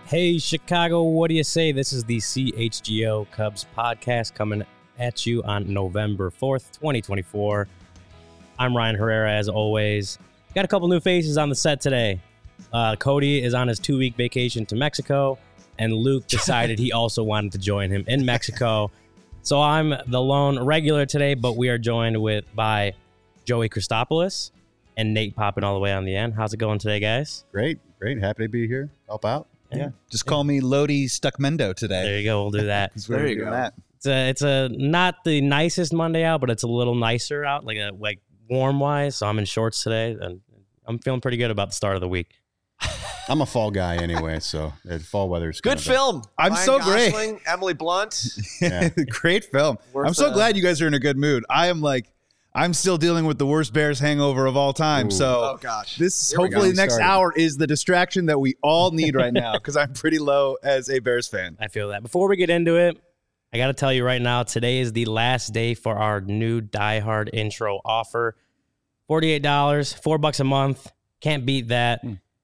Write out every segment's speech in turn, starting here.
Hey, Chicago, what do you say? This is the CHGO Cubs podcast coming at you on November 4th, 2024. I'm Ryan Herrera, as always. Got a couple new faces on the set today. Cody is on his 2-week vacation to Mexico, and Luke decided he also wanted to join him in Mexico. So I'm the lone regular today, but we are joined by Joey Christopoulos and Nate popping all the way on the end. How's it going today, guys? Great. Happy to be here. Help out. Yeah. Just call me Lodi Stuckmendo today. There you go. We'll do that. There you go. It's a not the nicest Monday out, but it's a little nicer out, like warm wise. So I'm in shorts today, and I'm feeling pretty good about the start of the week. I'm a fall guy anyway, so fall weather's good film. I'm Ryan so Gosling, great. Emily Blunt. Yeah. Great film. I'm so glad you guys are in a good mood. I'm still dealing with the worst Bears hangover of all time. Ooh. So Oh gosh. this Here we hopefully go. the next Started. hour is the distraction that we all need right now because I'm pretty low as a Bears fan. I feel that. Before we get into it, I got to tell you right now, today is the last day for our new Die Hard intro offer. $48, $4 a month. Can't beat that.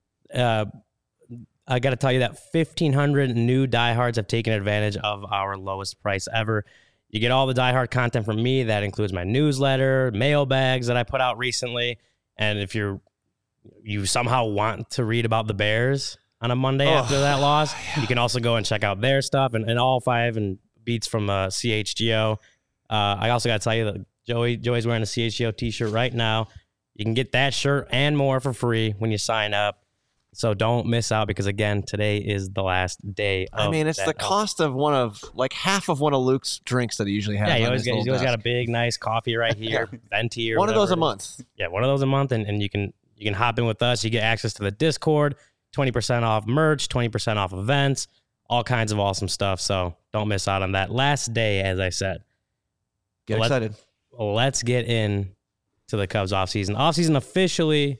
I got to tell you that 1,500 new diehards have taken advantage of our lowest price ever. You get all the Die Hard content from me. That includes my newsletter, mailbags that I put out recently. And if you somehow want to read about the Bears on a Monday after that loss, you can also go and check out their stuff and all 5 and beats from CHGO. I also got to tell you that Joey's wearing a CHGO t-shirt right now. You can get that shirt and more for free when you sign up. So don't miss out because, again, today is the last day of It's the cost of half of one of Luke's drinks that he usually has. Yeah, on he's always got a big, nice coffee right here, venti or one of those a whatever it month. is. Yeah, one of those a month, and you can hop in with us. You get access to the Discord, 20% off merch, 20% off events, all kinds of awesome stuff. So don't miss out on that last day, as I said. Get excited. Let's get in to the Cubs offseason. Offseason officially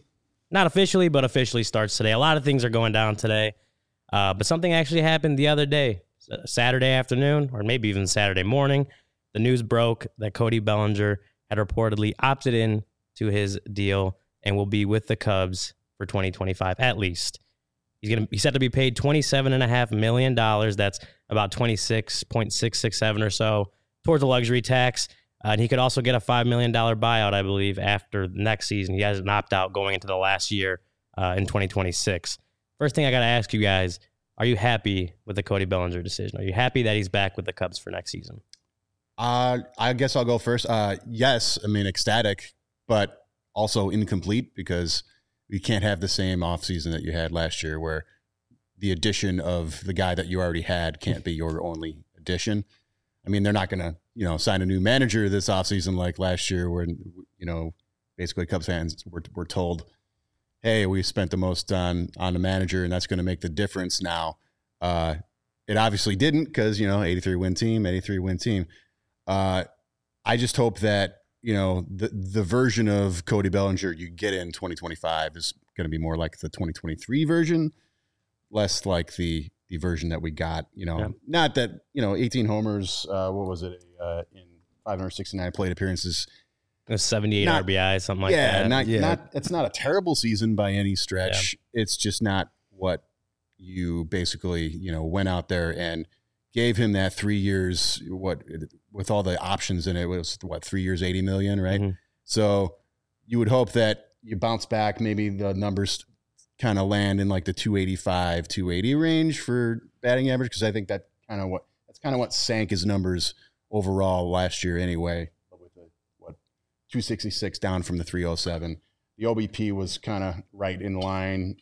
starts today. A lot of things are going down today, but something actually happened the other day, Saturday afternoon, or maybe even Saturday morning. The news broke that Cody Bellinger had reportedly opted in to his deal and will be with the Cubs for 2025 at least. He's set to be paid $27.5 million. That's about $26.667 or so towards the luxury tax. And he could also get a $5 million buyout, I believe, after next season. He has an opt-out going into the last year in 2026. First thing I got to ask you guys, are you happy with the Cody Bellinger decision? Are you happy that he's back with the Cubs for next season? I guess I'll go first. Yes, ecstatic, but also incomplete because we can't have the same offseason that you had last year where the addition of the guy that you already had can't be your only addition. They're not going to, sign a new manager this offseason like last year when, basically Cubs fans were told, hey, we spent the most on the manager and that's going to make the difference now. It obviously didn't because, 83-win team. I just hope that, the version of Cody Bellinger you get in 2025 is going to be more like the 2023 version, less like the version that we got, not that, 18 homers, what was it, in 569 plate appearances. 78 RBI, something like that. It's not a terrible season by any stretch. Yeah. It's just not what you basically, went out there and gave him that 3 years, with all the options in it, was 3 years, 80 million, right? Mm-hmm. So you would hope that you bounce back, maybe the numbers kind of land in like the 285, 280 range for batting average, because I think that's kind of what sank his numbers overall last year anyway, with the 266 down from the 307. The OBP was kind of right in line.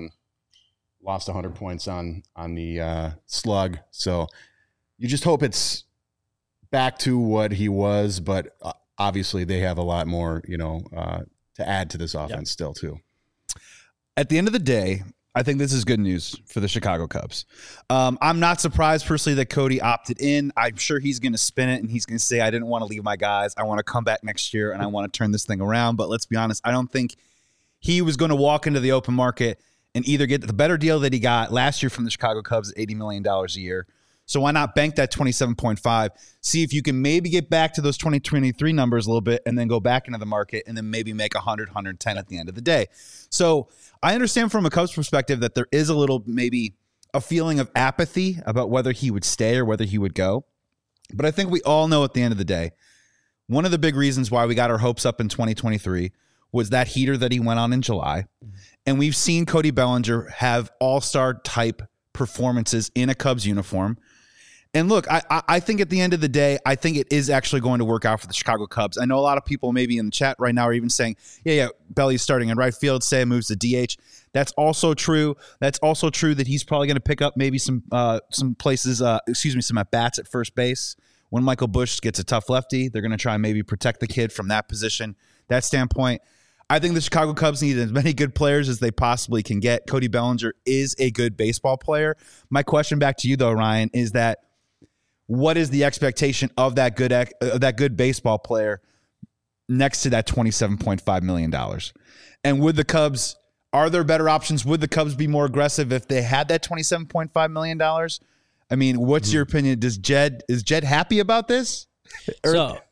Lost 100 points on the slug. So you just hope it's back to what he was, but obviously they have a lot more, to add to this offense still too. At the end of the day, I think this is good news for the Chicago Cubs. I'm not surprised personally that Cody opted in. I'm sure he's going to spin it and he's going to say, I didn't want to leave my guys. I want to come back next year and I want to turn this thing around. But let's be honest, I don't think he was going to walk into the open market and either get the better deal that he got last year from the Chicago Cubs, $80 million a year. So why not bank that 27.5, see if you can maybe get back to those 2023 numbers a little bit and then go back into the market and then maybe make 100, 110 at the end of the day. So I understand from a Cubs perspective that there is a little maybe a feeling of apathy about whether he would stay or whether he would go. But I think we all know at the end of the day, one of the big reasons why we got our hopes up in 2023 was that heater that he went on in July. And we've seen Cody Bellinger have all-star type performances in a Cubs uniform. And look, I think at the end of the day, I think it is actually going to work out for the Chicago Cubs. I know a lot of people maybe in the chat right now are even saying, Belly's starting in right field, say moves to DH. That's also true. That's also true that he's probably going to pick up maybe some places, some at-bats at first base. When Michael Busch gets a tough lefty, they're going to try and maybe protect the kid from that position, that standpoint. I think the Chicago Cubs need as many good players as they possibly can get. Cody Bellinger is a good baseball player. My question back to you, though, Ryan, is that what is the expectation of that good baseball player next to that $27.5 million? And would the Cubs, are there better options? Would the Cubs be more aggressive if they had that $27.5 million? I mean, what's your opinion? Is Jed happy about this? To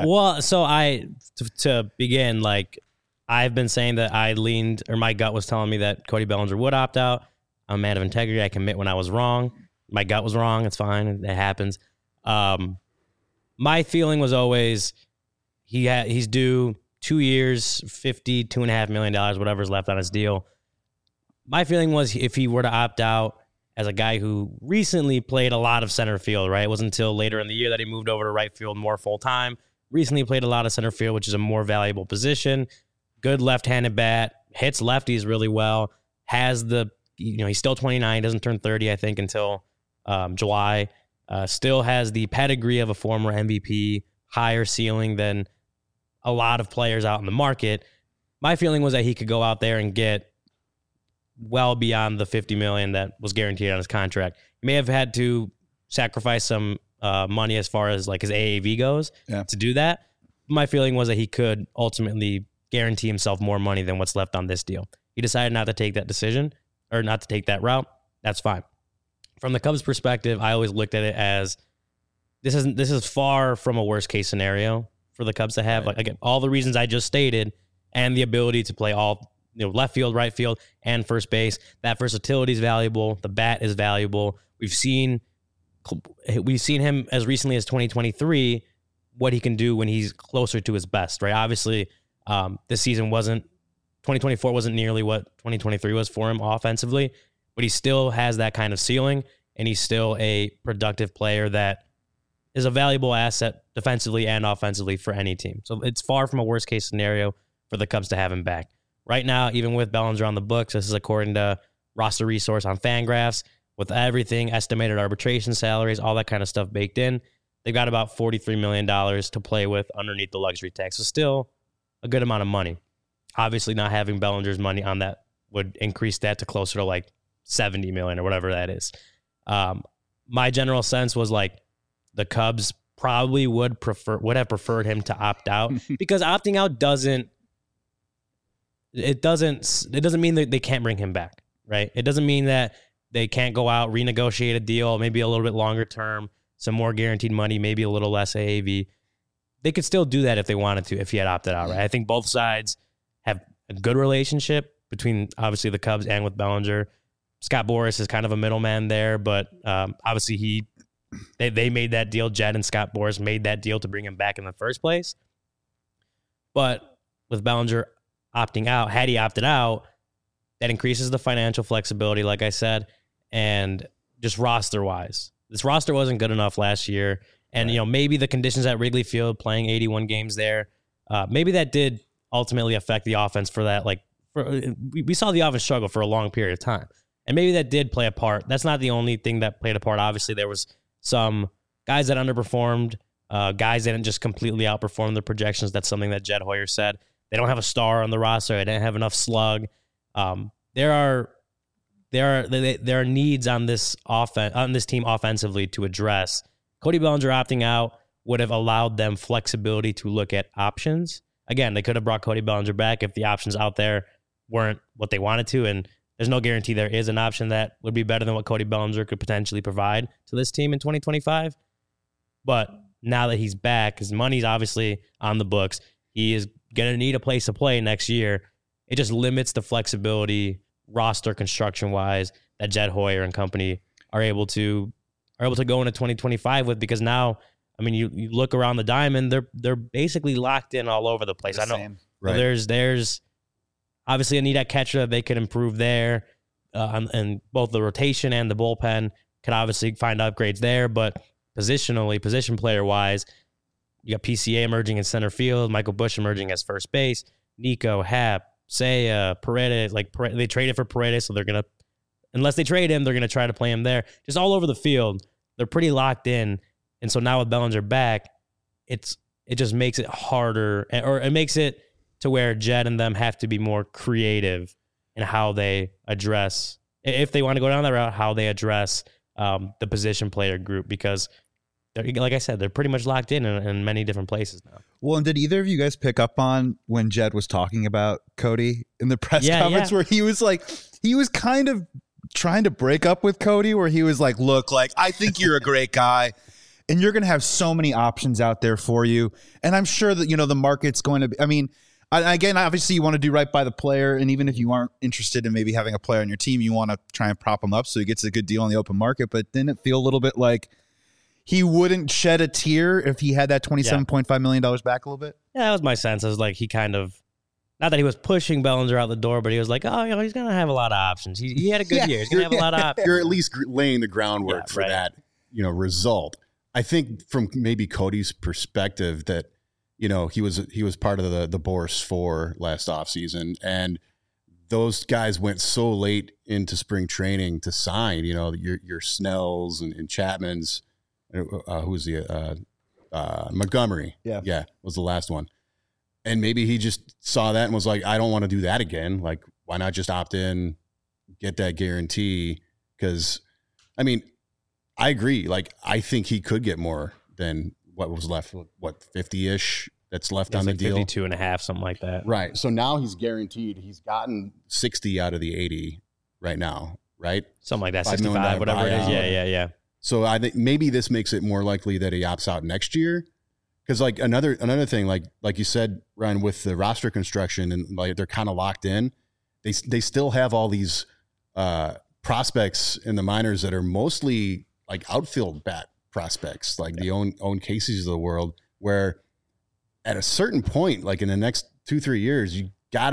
begin, like, I've been saying that I leaned, or my gut was telling me that Cody Bellinger would opt out. I'm a man of integrity. I can admit when I was wrong. My gut was wrong. It's fine. It happens. My feeling was always he's due 2 years, $52.5 million, whatever's left on his deal. My feeling was if he were to opt out as a guy who recently played a lot of center field, right? It wasn't until later in the year that he moved over to right field more full time. Recently played a lot of center field, which is a more valuable position. Good left-handed bat, hits lefties really well. Has he's still 29, doesn't turn 30, I think, until July. Still has the pedigree of a former MVP, higher ceiling than a lot of players out in the market. My feeling was that he could go out there and get well beyond the $50 million that was guaranteed on his contract. He may have had to sacrifice some money as far as like his AAV goes to do that. My feeling was that he could ultimately guarantee himself more money than what's left on this deal. He decided not to take that decision or not to take that route. That's fine. From the Cubs' perspective, I always looked at it as this is far from a worst case scenario for the Cubs to have. Like, again, all the reasons I just stated and the ability to play all left field, right field, and first base. That versatility is valuable. The bat is valuable. We've seen him as recently as 2023 what he can do when he's closer to his best. Right? Obviously, this season 2024 wasn't nearly what 2023 was for him offensively. But he still has that kind of ceiling, and he's still a productive player that is a valuable asset defensively and offensively for any team. So it's far from a worst-case scenario for the Cubs to have him back. Right now, even with Bellinger on the books, this is according to Roster Resource on Fangraphs, with everything, estimated arbitration salaries, all that kind of stuff baked in, they've got about $43 million to play with underneath the luxury tax. So still a good amount of money. Obviously, not having Bellinger's money on that would increase that to closer to like $70 million or whatever that is. My general sense was like the Cubs probably would have preferred him to opt out because opting out doesn't mean that they can't bring him back, right? It doesn't mean that they can't go out, renegotiate a deal, maybe a little bit longer term, some more guaranteed money, maybe a little less AAV. They could still do that if they wanted to, if he had opted out, right? I think both sides have a good relationship between obviously the Cubs and with Bellinger. Scott Boras is kind of a middleman there, but obviously they made that deal. Jed and Scott Boras made that deal to bring him back in the first place. But with Bellinger opting out, had he opted out, that increases the financial flexibility, like I said, and just roster-wise. This roster wasn't good enough last year, and maybe the conditions at Wrigley Field, playing 81 games there, maybe that did ultimately affect the offense for that. We saw the offense struggle for a long period of time. And maybe that did play a part. That's not the only thing that played a part. Obviously, there was some guys that underperformed, guys that didn't just completely outperform their projections. That's something that Jed Hoyer said. They don't have a star on the roster. They didn't have enough slug. There are needs on this team offensively to address. Cody Bellinger opting out would have allowed them flexibility to look at options. Again, they could have brought Cody Bellinger back if the options out there weren't what they wanted to, and there's no guarantee there is an option that would be better than what Cody Bellinger could potentially provide to this team in 2025. But now that he's back, his money's obviously on the books. He is going to need a place to play next year. It just limits the flexibility roster construction wise that Jed Hoyer and company are able to go into 2025 with, because now, I mean, you look around the diamond, they're basically locked in all over the place. I know Right. there's obviously a need at catcher that they could improve there, and both the rotation and the bullpen could obviously find upgrades there. But positionally, position player wise, you got PCA emerging in center field, Michael Busch emerging as first base, Nico, Happ, Seiya, Paredes. They traded for Paredes, so they're gonna, unless they trade him, they're gonna try to play him there. Just all over the field, they're pretty locked in. And so now with Bellinger back, it just makes it harder, or it makes it to where Jed and them have to be more creative in how they address, if they want to go down that route, how they address the position player group, because like I said, they're pretty much locked in many different places now. Well, and did either of you guys pick up on when Jed was talking about Cody in the press conference where he was kind of trying to break up with Cody, where he was like, look, like, I think you're a great guy and you're going to have so many options out there for you. And I'm sure that, the market's going to be, I mean, again, obviously you want to do right by the player. And even if you aren't interested in maybe having a player on your team, you want to try and prop him up so he gets a good deal on the open market. But didn't it feel a little bit like he wouldn't shed a tear if he had that $27.5 million back a little bit? Yeah, that was my sense. It was like he kind of, not that he was pushing Bellinger out the door, but he was like, oh, he's going to have a lot of options. He had a good year. He's going to have a lot of options. You're at least laying the groundwork for that, result. I think from maybe Cody's perspective that, he was part of the Boris 4 last offseason, and those guys went so late into spring training to sign, your Snells and Chapman's, who's the Montgomery. Yeah, was the last one. And maybe he just saw that and was like, I don't want to do that again. Like, why not just opt in, get that guarantee? Because, I mean, I agree. Like, I think he could get more than what was left, 50-ish that's left on the deal. 52 and a half, something like that. Right. So now he's guaranteed. He's gotten 60 out of the 80 right now, right? Something like that, 65, whatever it is. Yeah. So I think maybe this makes it more likely that he opts out next year. Because like another thing, like you said, Ryan, with the roster construction and like they're kind of locked in, they still have all these prospects in the minors that are mostly like outfield bat prospects, like the own Casey's of the world, where at a certain point, like in the next 2-3 years, you got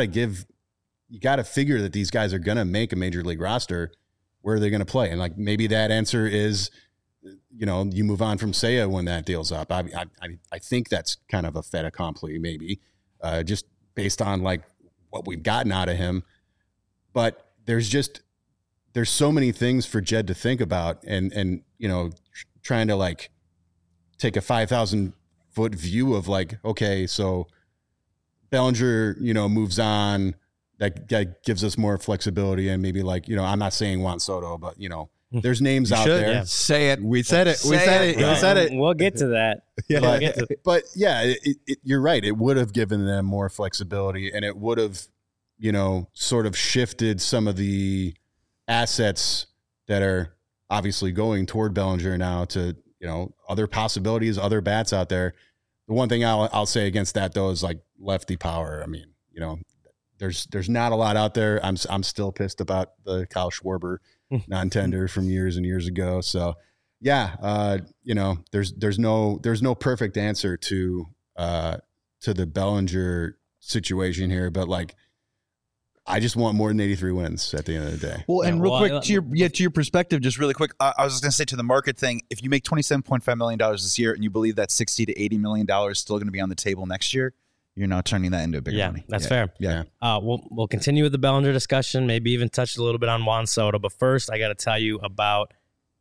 to figure that these guys are going to make a major league roster. Where are they going to play? And like maybe that answer is, you move on from Seiya when that deal's up. I think that's kind of a fait accompli, maybe, just based on like what we've gotten out of him. But there's so many things for Jed to think about, and trying to like take a 5,000-foot view of like, okay, so Bellinger, moves on. That gives us more flexibility, and maybe like, I'm not saying Juan Soto, but there's names out there. Yeah. Say it. We said it. We said it. We'll get to that. Yeah. But yeah, you're right. It would have given them more flexibility, and it would have, sort of shifted some of the assets that are obviously going toward Bellinger now to, other possibilities, other bats out there. The one thing I'll say against that though is like lefty power. I mean, there's not a lot out there. I'm still pissed about the Kyle Schwarber non-tender from years and years ago. So yeah, there's no perfect answer to the Bellinger situation here, but like, I just want more than 83 wins at the end of the day. Well, and real quick to your perspective, just really quick, I was just going to say to the market thing, if you make $27.5 million this year and you believe that $60 to $80 million is still going to be on the table next year, you're now turning that into a bigger money. That's fair. Yeah. We'll continue with the Bellinger discussion, maybe even touch a little bit on Juan Soto. But first, I got to tell you about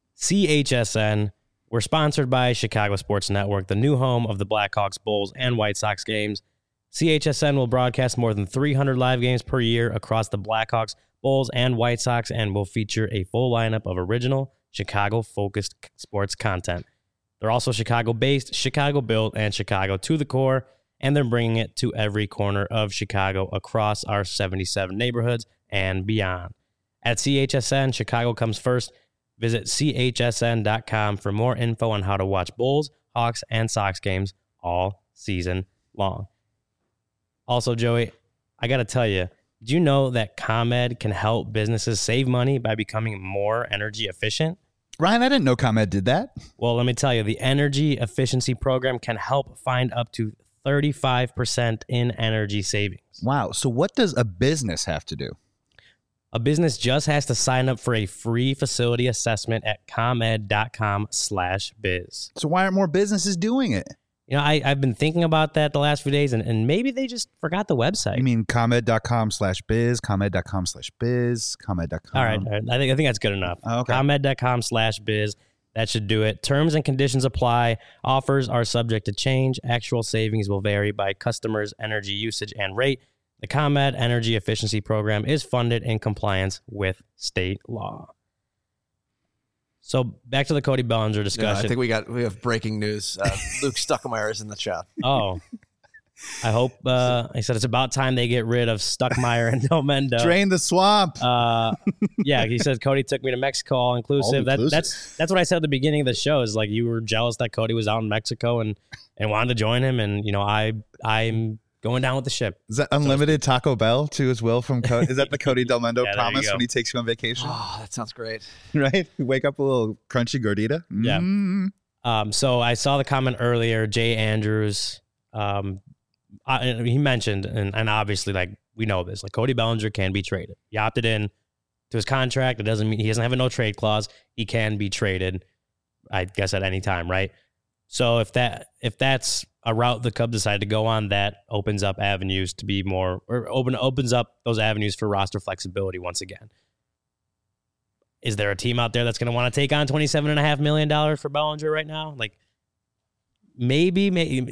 CHSN. We're sponsored by Chicago Sports Network, the new home of the Blackhawks, Bulls, and White Sox games. CHSN will broadcast more than 300 live games per year across the Blackhawks, Bulls, and White Sox, and will feature a full lineup of original Chicago-focused sports content. They're also Chicago-based, Chicago-built, and Chicago to the core, and they're bringing it to every corner of Chicago across our 77 neighborhoods and beyond. At CHSN, Chicago comes first. Visit chsn.com for more info on how to watch Bulls, Hawks, and Sox games all season long. Also, Joey, I got to tell you, Do you know that ComEd can help businesses save money by becoming more energy efficient? Ryan, I didn't know ComEd did that. Well, let me tell you, the energy efficiency program can help find up to 35% in energy savings. Wow. So what does a business have to do? A business just has to sign up for a free facility assessment at comed.com/biz. So why aren't more businesses doing it? You know, I've been thinking about that the last few days, and maybe they just forgot the website. You mean comed.com/biz, comed.com/biz, comed.com. All right. I think that's good enough. Okay. ComEd.com/biz. That should do it. Terms and conditions apply. Offers are subject to change. Actual savings will vary by customers' energy usage and rate. The ComEd Energy Efficiency Program is funded in compliance with state law. So back to the Cody Bellinger discussion. I think we have breaking news. Luke Stuckmeyer is in the chat. Oh, I hope. I said it's about time they get rid of Stuckmeyer and Delmendo. Drain the swamp. Yeah, he says Cody took me to Mexico, all inclusive. That's what I said at the beginning of the show. Is like you were jealous that Cody was out in Mexico and wanted to join him, and you know I'm going down with the ship. Is that unlimited Taco Bell too as well from Cody? Is that the Cody Delmendo Yeah, promise when he takes you on vacation? Oh, that sounds great. Right? You wake up a little crunchy gordita. Yeah. So I saw the comment earlier. Jay Andrews, he mentioned, and obviously, like we know this, like Cody Bellinger can be traded. He opted in to his contract. It doesn't mean he doesn't have a no trade clause. He can be traded, I guess, at any time, right? So if that's a route the Cubs decide to go on, that opens up avenues to be more, or opens up those avenues for roster flexibility once again. Is there a team out there that's going to want to take on $27.5 million for Bellinger right now? Like maybe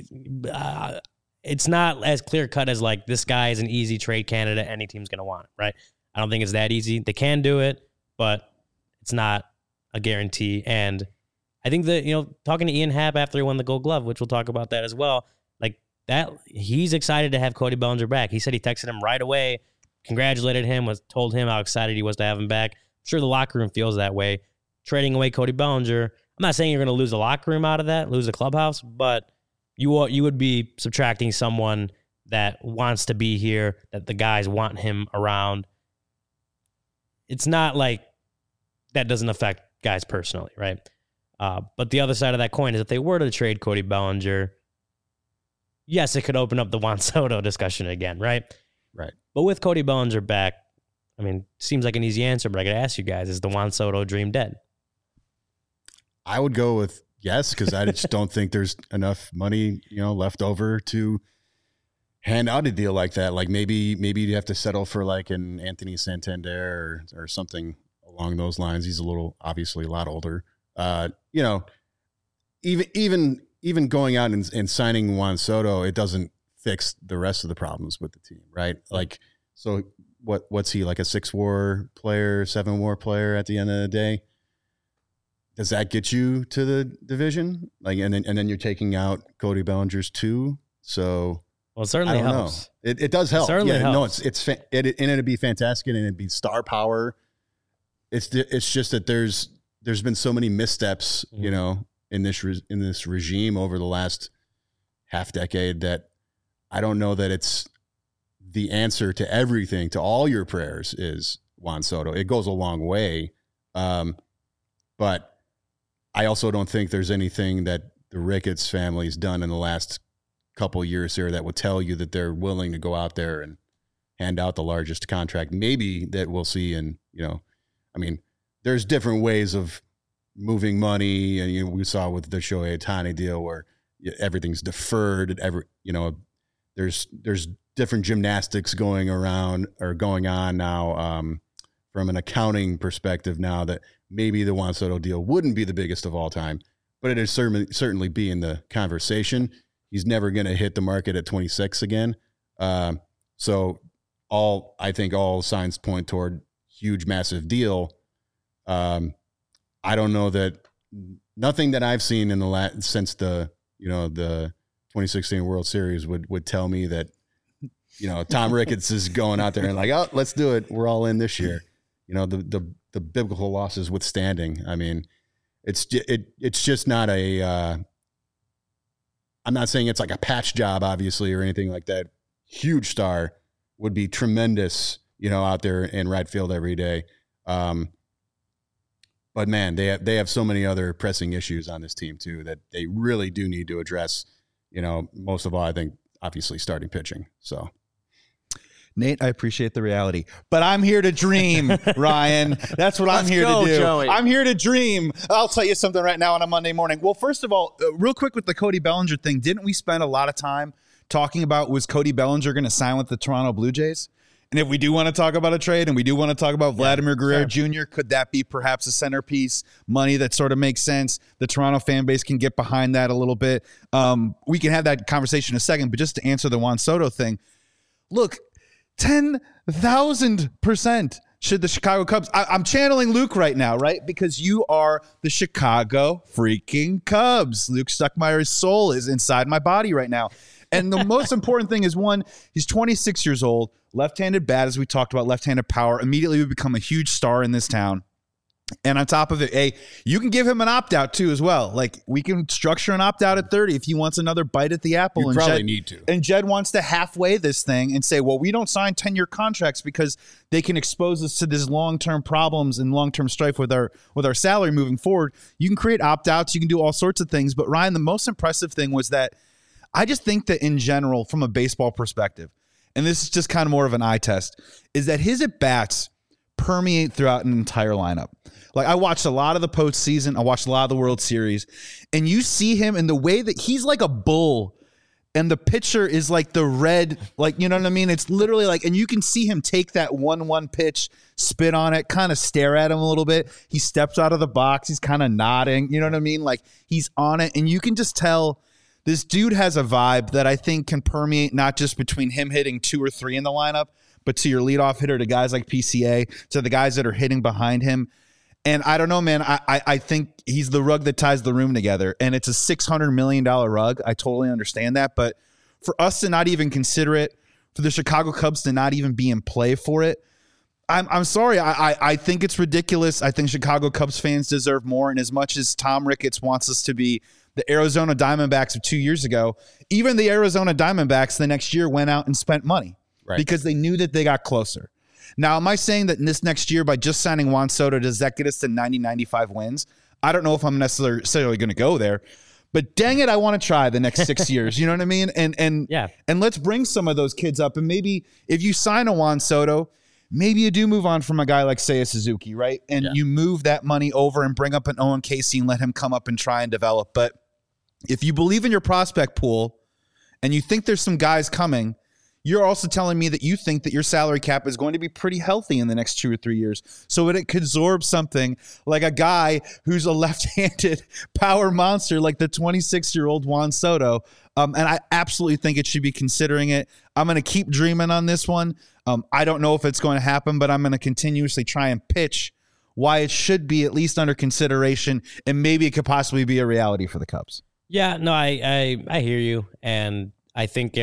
it's not as clear cut as like this guy is an easy trade candidate. Any team's going to want it, right? I don't think it's that easy. They can do it, but it's not a guarantee. And I think that, talking to Ian Happ after he won the Gold Glove, which we'll talk about that as well, like that, he's excited to have Cody Bellinger back. He said he texted him right away, congratulated him, told him how excited he was to have him back. I'm sure the locker room feels that way. Trading away Cody Bellinger, I'm not saying you're going to lose the locker room out of that, lose the clubhouse, but you would be subtracting someone that wants to be here, that the guys want him around. It's not like that doesn't affect guys personally, right? But the other side of that coin is if they were to trade Cody Bellinger, yes, it could open up the Juan Soto discussion again, right? Right. But with Cody Bellinger back, I mean, seems like an easy answer, but I got to ask you guys, is the Juan Soto dream dead? I would go with yes, because I just don't think there's enough money, left over to hand out a deal like that. Like maybe you have to settle for like an Anthony Santander or something along those lines. He's obviously a lot older. Even going out and signing Juan Soto, it doesn't fix the rest of the problems with the team, right? Like, so what's he, like a 6-WAR player, 7-WAR player at the end of the day? Does that get you to the division? Like, and then you're taking out Cody Bellinger's 2. So, well, it certainly helps. It does help. It certainly helps. No, it'd be fantastic, and it'd be star power. It's just that there's been so many missteps, in this regime over the last half decade that I don't know that it's the answer to everything, to all your prayers is Juan Soto. It goes a long way. But I also don't think there's anything that the Ricketts family's done in the last couple of years here that would tell you that they're willing to go out there and hand out the largest contract maybe that we'll see. And, there's different ways of moving money. And, we saw with the Shohei Ohtani deal where everything's deferred. There's different gymnastics going on now from an accounting perspective now that maybe the Juan Soto deal wouldn't be the biggest of all time, but it is certainly be in the conversation. He's never going to hit the market at 26 again. So I think all signs point toward huge, massive deal. I don't know that nothing that I've seen in since the 2016 World Series would tell me that, Tom Ricketts is going out there and like, oh, let's do it. We're all in this year. The biblical losses withstanding. I mean, it's just not I'm not saying it's like a patch job, obviously, or anything like that. Huge star, would be tremendous, out there in right field every day. But man, they have so many other pressing issues on this team too that they really do need to address. Most of all, I think obviously starting pitching. So. Nate, I appreciate the reality, but I'm here to dream, Ryan. That's what I'm here to do. Joey. I'm here to dream. I'll tell you something right now on a Monday morning. Well, first of all, real quick with the Cody Bellinger thing, didn't we spend a lot of time talking about was Cody Bellinger going to sign with the Toronto Blue Jays? And if we do want to talk about a trade and we do want to talk about Vladimir Guerrero Jr., could that be perhaps a centerpiece, money that sort of makes sense? The Toronto fan base can get behind that a little bit. We can have that conversation in a second, but just to answer the Juan Soto thing, look, 10,000% should the Chicago Cubs. I'm channeling Luke right now, right? Because you are the Chicago freaking Cubs. Luke Stuckmeyer's soul is inside my body right now. And the most important thing is, one, he's 26 years old, left-handed bat, as we talked about, left-handed power, immediately would become a huge star in this town. And on top of it, you can give him an opt-out too as well. Like, we can structure an opt-out at 30 if he wants another bite at the apple. You probably need to. And Jed wants to halfway this thing and say, well, we don't sign 10-year contracts because they can expose us to these long-term problems and long-term strife with our salary moving forward. You can create opt-outs. You can do all sorts of things. But, Ryan, the most impressive thing was that I just think that in general, from a baseball perspective, and this is just kind of more of an eye test, is that his at-bats permeate throughout an entire lineup. Like, I watched a lot of the postseason. I watched a lot of the World Series. And you see him in the way that he's like a bull. And the pitcher is like the red, like, you know what I mean? It's literally like, and you can see him take that 1-1 pitch, spit on it, kind of stare at him a little bit. He steps out of the box. He's kind of nodding. You know what I mean? Like, he's on it. And you can just tell this dude has a vibe that I think can permeate not just between him hitting 2 or 3 in the lineup, but to your leadoff hitter, to guys like PCA, to the guys that are hitting behind him. And I don't know, man, I think he's the rug that ties the room together. And it's a $600 million rug. I totally understand that. But for us to not even consider it, for the Chicago Cubs to not even be in play for it, I'm sorry. I think it's ridiculous. I think Chicago Cubs fans deserve more. And as much as Tom Ricketts wants us to be the Arizona Diamondbacks of 2 years ago, even the Arizona Diamondbacks the next year went out and spent money because they knew that they got closer. Now, am I saying that in this next year, by just signing Juan Soto, does that get us to 90, 95 wins? I don't know if I'm necessarily going to go there, but dang it, I want to try the next 6 years. You know what I mean? And let's bring some of those kids up. And maybe if you sign a Juan Soto, maybe you do move on from a guy like Seiya Suzuki, right? And you move that money over and bring up an Owen Casey and let him come up and try and develop. But if you believe in your prospect pool and you think there's some guys coming, you're also telling me that you think that your salary cap is going to be pretty healthy in the next 2 or 3 years. So it could absorb something like a guy who's a left-handed power monster like the 26-year-old Juan Soto. And I absolutely think it should be considering it. I'm going to keep dreaming on this one. I don't know if it's going to happen, but I'm going to continuously try and pitch why it should be at least under consideration, and maybe it could possibly be a reality for the Cubs. Yeah, no, I hear you. And I think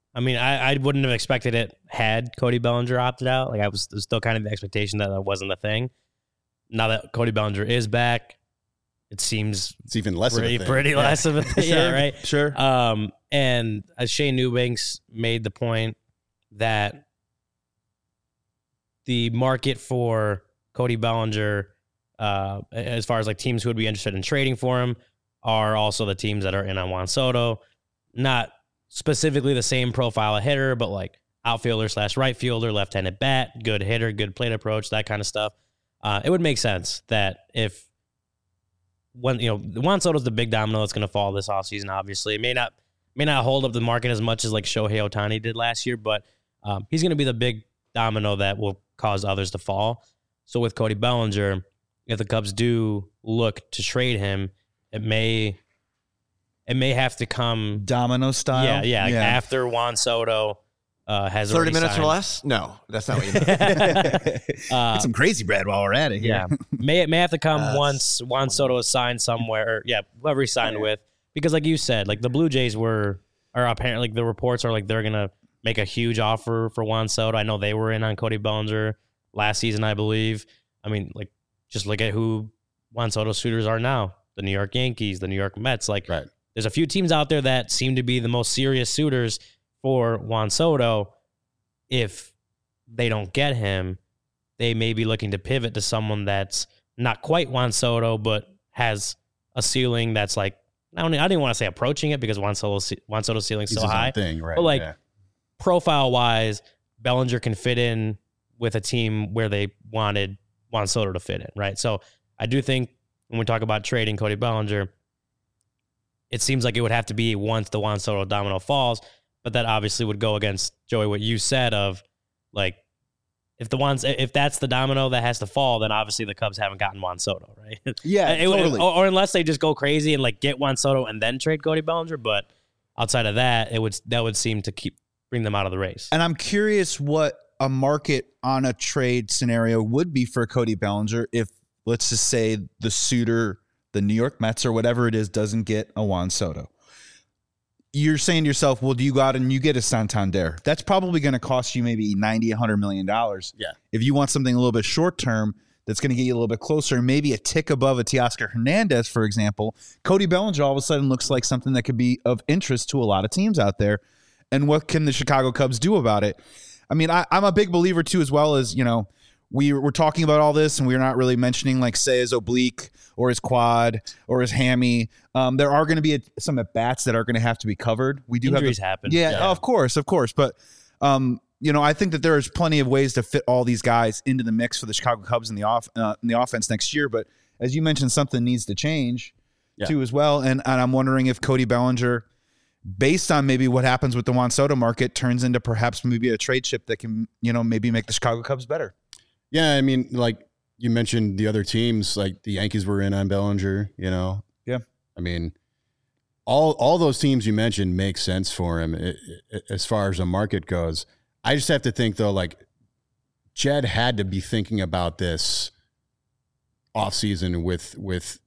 I wouldn't have expected it had Cody Bellinger opted out. Like, there's still kind of the expectation that wasn't a thing. Now that Cody Bellinger is back, it seems it's even less of a thing. Pretty less of a thing. Sure, yeah, right. Sure. And as Shane Newbanks made the point that the market for Cody Bellinger, as far as like teams who would be interested in trading for him, are also the teams that are in on Juan Soto. Not specifically the same profile of hitter, but like outfielder/right fielder, left-handed bat, good hitter, good plate approach, that kind of stuff. It would make sense that if Juan Soto's the big domino that's going to fall this offseason, obviously. It may not hold up the market as much as like Shohei Ohtani did last year, but he's going to be the big domino that will cause others to fall. So with Cody Bellinger, if the Cubs do look to trade him, it may have to come domino style. Yeah. After Juan Soto has 30 minutes signed. or less? No, that's not what you mean. Get some crazy bread while we're at it here. Yeah. May have to come once Juan Soto is signed somewhere. Or, whoever he signed with. Because like you said, like the Blue Jays are apparently, like the reports are like they're going to make a huge offer for Juan Soto. I know they were in on Cody Bellinger last season, I believe. I mean, like, just look at who Juan Soto's suitors are now. The New York Yankees, the New York Mets. Like, There's a few teams out there that seem to be the most serious suitors for Juan Soto. if they don't get him, they may be looking to pivot to someone that's not quite Juan Soto, but has a ceiling that's like, I didn't want to say approaching it because Juan Soto's ceiling's so high. Thing, right? But like profile-wise, Bellinger can fit in with a team where they wanted Juan Soto to fit in, right? So I do think when we talk about trading Cody Bellinger, it seems like it would have to be once the Juan Soto domino falls, but that obviously would go against, Joey, what you said of like, if that's the domino that has to fall, then obviously the Cubs haven't gotten Juan Soto, right? Yeah, totally. Or unless they just go crazy and like get Juan Soto and then trade Cody Bellinger, but outside of that, that would seem to bring them out of the race. And I'm curious what a market on a trade scenario would be for Cody Bellinger if, let's just say, the suitor, the New York Mets or whatever it is, doesn't get a Juan Soto. You're saying to yourself, well, do you go out and you get a Santander? That's probably going to cost you maybe $90, $100 million. Yeah. If you want something a little bit short term, that's going to get you a little bit closer, maybe a tick above a Teoscar Hernandez, for example, Cody Bellinger all of a sudden looks like something that could be of interest to a lot of teams out there. And what can the Chicago Cubs do about it? I mean, I'm a big believer too, as well as, we're talking about all this and we're not really mentioning like say his oblique or his quad or his hammy. There are going to be some at bats that are going to have to be covered. We do Injuries happen. Yeah, of course. But, I think that there is plenty of ways to fit all these guys into the mix for the Chicago Cubs in the offense next year. But as you mentioned, something needs to change too as well. And I'm wondering if Cody Bellinger, based on maybe what happens with the Juan Soto market, turns into perhaps maybe a trade chip that can, maybe make the Chicago Cubs better. Yeah, I mean, like you mentioned the other teams, like the Yankees were in on Bellinger, Yeah. I mean, all those teams you mentioned make sense for him as far as the market goes. I just have to think, though, like Jed had to be thinking about this offseason with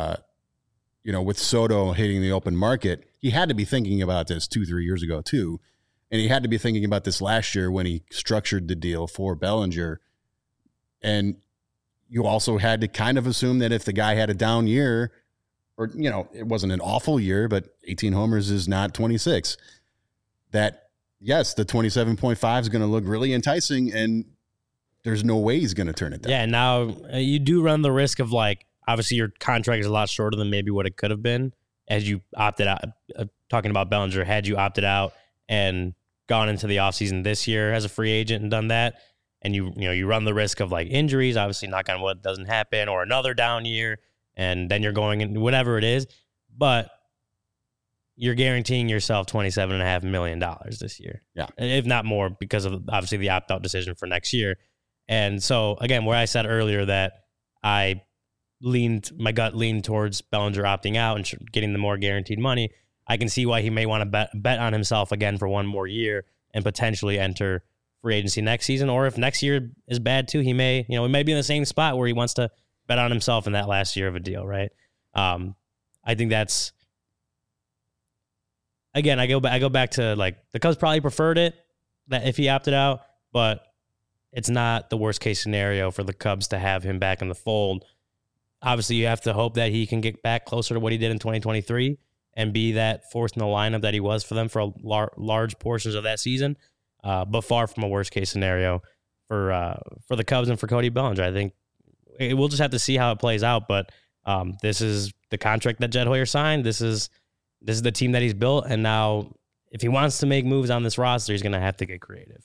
Soto hitting the open market. He had to be thinking about this 2-3 years ago, too. And he had to be thinking about this last year when he structured the deal for Bellinger. And you also had to kind of assume that if the guy had a down year, or, it wasn't an awful year, but 18 homers is not 26, that, yes, the 27.5 is going to look really enticing, and there's no way he's going to turn it down. Yeah, now you do run the risk of, like, obviously your contract is a lot shorter than maybe what it could have been as you opted out. Talking about Bellinger, had you opted out and gone into the offseason this year as a free agent and done that, and you run the risk of like injuries, obviously knock on wood doesn't happen, or another down year, and then you're going in whatever it is, but you're guaranteeing yourself $27.5 million this year. Yeah. If not more, because of obviously the opt-out decision for next year. And so again, where I said earlier that my gut leaned towards Bellinger opting out and getting the more guaranteed money, I can see why he may want to bet on himself again for one more year and potentially enter free agency next season. Or if next year is bad too, he may be in the same spot where he wants to bet on himself in that last year of a deal, right? I think that's, again, I go back to like the Cubs probably preferred it that if he opted out, but it's not the worst case scenario for the Cubs to have him back in the fold. Obviously, you have to hope that he can get back closer to what he did in 2023 and be that fourth in the lineup that he was for them for large portions of that season. But far from a worst case scenario for the Cubs and for Cody Bellinger. I think we'll just have to see how it plays out. But this is the contract that Jed Hoyer signed. This is the team that he's built. And now if he wants to make moves on this roster, he's going to have to get creative.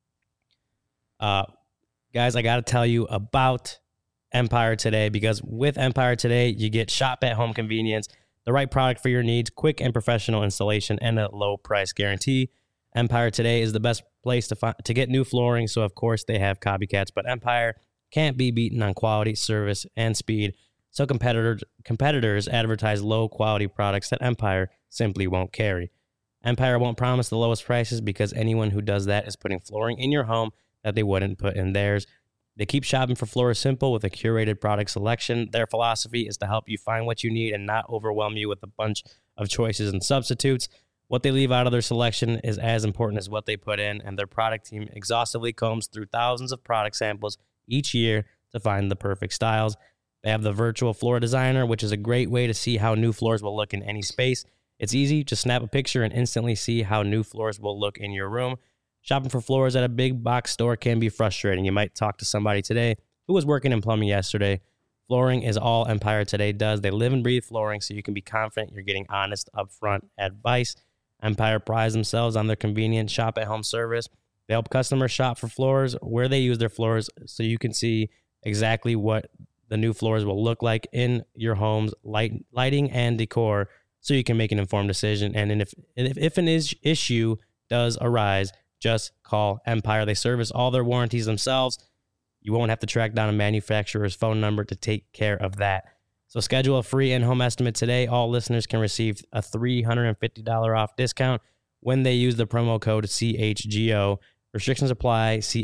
Guys, I got to tell you about Empire Today, because with Empire Today, you get shop at home convenience, the right product for your needs, quick and professional installation, and a low price guarantee. Empire Today is the best place to get new flooring, so of course they have copycats, but Empire can't be beaten on quality, service, and speed. So competitors advertise low-quality products that Empire simply won't carry. Empire won't promise the lowest prices because anyone who does that is putting flooring in your home that they wouldn't put in theirs. They keep shopping for Floor Simple with a curated product selection. Their philosophy is to help you find what you need and not overwhelm you with a bunch of choices and substitutes. What they leave out of their selection is as important as what they put in, and their product team exhaustively combs through thousands of product samples each year to find the perfect styles. They have the virtual floor designer, which is a great way to see how new floors will look in any space. It's easy. Just snap a picture and instantly see how new floors will look in your room. Shopping for floors at a big box store can be frustrating. You might talk to somebody today who was working in plumbing yesterday. Flooring is all Empire Today does. They live and breathe flooring, so you can be confident you're getting honest, upfront advice. Empire prides themselves on their convenient shop-at-home service. They help customers shop for floors, where they use their floors, so you can see exactly what the new floors will look like in your home's lighting and decor, so you can make an informed decision. And if an issue does arise, just call Empire. They service all their warranties themselves. You won't have to track down a manufacturer's phone number to take care of that. So schedule a free in-home estimate today. All listeners can receive a $350 off discount when they use the promo code CHGO. Restrictions apply. See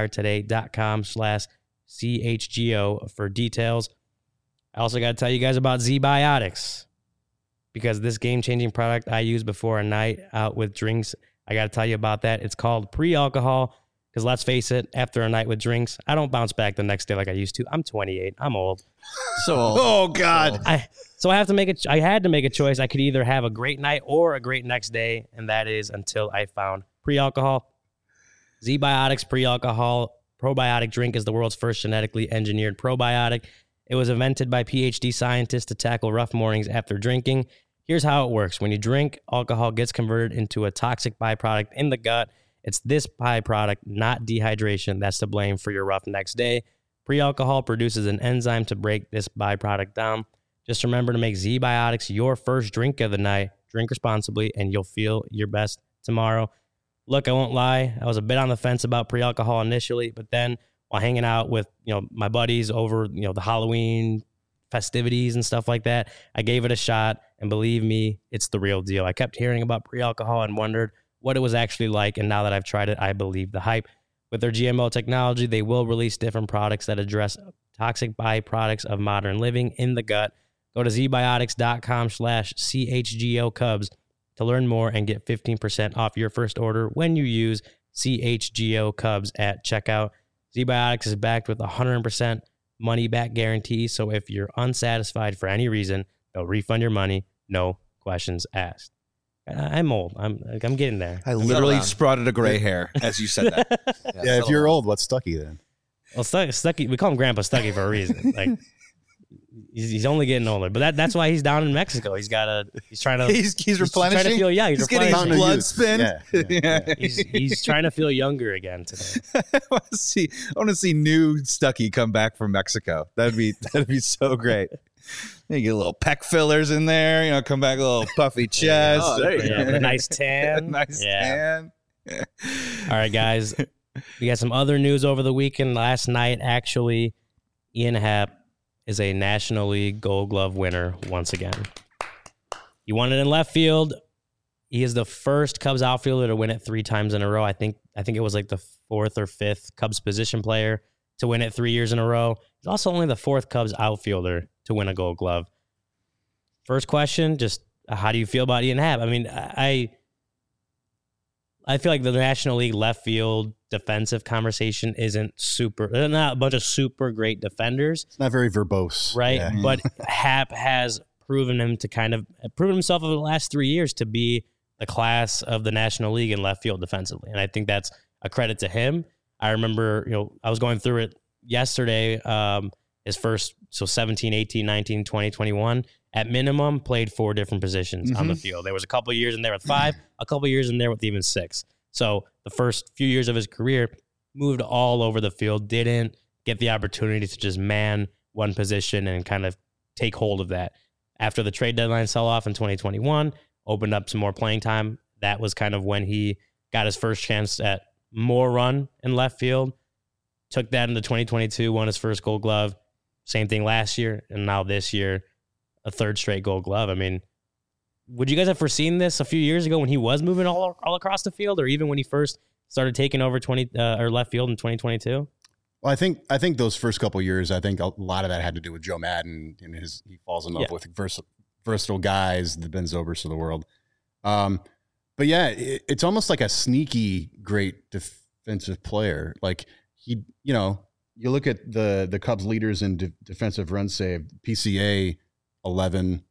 empiretoday.com/CHGO for details. I also got to tell you guys about Z-Biotics, because this game-changing product I use before a night out with drinks. I got to tell you about that. It's called pre-alcohol, because let's face it, after a night with drinks, I don't bounce back the next day like I used to. I'm 28. I'm old. So old. Oh God. So I had to make a choice. I could either have a great night or a great next day, and that is until I found pre-alcohol. Z-Biotics pre-alcohol probiotic drink is the world's first genetically engineered probiotic. It was invented by PhD scientists to tackle rough mornings after drinking. Here's how it works. When you drink, alcohol gets converted into a toxic byproduct in the gut. It's this byproduct, not dehydration, that's to blame for your rough next day. Pre-alcohol produces an enzyme to break this byproduct down. Just remember to make Z-Biotics your first drink of the night. Drink responsibly, and you'll feel your best tomorrow. Look, I won't lie. I was a bit on the fence about pre-alcohol initially, but then while hanging out with my buddies over the Halloween festivities and stuff like that, I gave it a shot, and believe me, it's the real deal. I kept hearing about pre-alcohol and wondered what it was actually like, and now that I've tried it, I believe the hype. With their GMO technology, they will release different products that address toxic byproducts of modern living in the gut. Go to zbiotics.com/CHGO Cubs to learn more and get 15% off your first order when you use CHGO Cubs at checkout. Z-Biotics is backed with a 100% money-back guarantee, so if you're unsatisfied for any reason, they'll refund your money, no questions asked. I'm old. I'm getting there. I literally sprouted a gray hair as you said that. Yeah, if you're old, what's Stucky then? Well, Stucky, we call him Grandpa Stucky for a reason. Like he's only getting older, but that's why he's down in Mexico. He's trying to he's replenishing. Trying to feel, he's getting his replenishing. blood spin. Yeah. He's trying to feel younger again today. I want to see new Stucky come back from Mexico. That'd be so great. You get a little pec fillers in there, come back a little puffy chest. Oh, there you go. A nice tan. tan. All right, guys. We got some other news over the weekend. Last night, actually, Ian Happ is a National League Gold Glove winner once again. He won it in left field. He is the first Cubs outfielder to win it 3 times in a row. I think it was like the 4th or 5th Cubs position player to win it 3 years in a row. He's also only the 4th Cubs outfielder to win a Gold Glove. First question, just how do you feel about Ian Happ? I mean, I feel like the National League left field defensive conversation isn't super. They're not a bunch of super great defenders. It's not very verbose. Right? Yeah. But Happ has proven himself over the last 3 years to be the class of the National League in left field defensively. And I think that's a credit to him. I remember, I was going through it yesterday, his first, 17, 18, 19, 20, 21, at minimum played 4 different positions on the field. There was a couple of years in there with 5, a couple of years in there with even 6. So the first few years of his career moved all over the field, didn't get the opportunity to just man one position and kind of take hold of that. After the trade deadline sell-off in 2021, opened up some more playing time. That was kind of when he got his first chance at more run in left field. Took that into 2022, won his first Gold Glove. Same thing last year, and now this year, a 3rd straight Gold Glove. I mean, would you guys have foreseen this a few years ago when he was moving all across the field, or even when he first started taking over or left field in 2022? Well, I think those first couple of years, I think a lot of that had to do with Joe Madden and he falls in love with versatile guys, the Ben Zobers of the world. But yeah, it's almost like a sneaky great defensive player. Like you look at the Cubs leaders in defensive run save, PCA 11,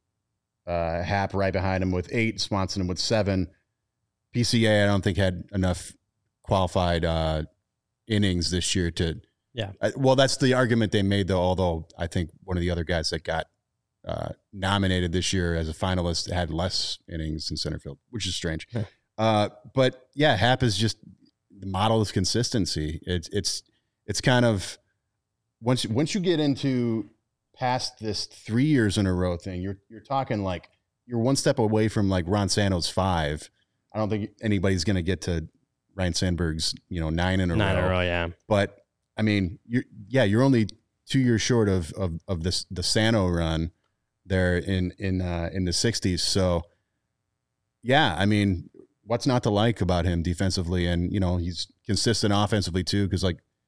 Happ right behind him with 8, Swanson with 7. PCA I don't think had enough qualified innings this year to. Yeah. Well, that's the argument they made, though. Although I think one of the other guys that got nominated this year as a finalist had less innings in center field, which is strange. But yeah, Happ is just the model of consistency. It's kind of once you get into past this 3 years in a row thing, you're talking like you're one step away from like Ron Santo's 5. I don't think anybody's going to get to Ryan Sandberg's 9 in a row. 9 in a row, yeah. But I mean, you're only 2 years short of the Santo run there in the 60s. So yeah, I mean, what's not to like about him defensively? And he's consistent offensively too, because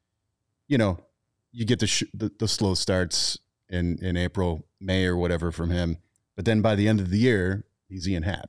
you get the slow starts in April, May, or whatever from him, but then by the end of the year, he's Ian Happ.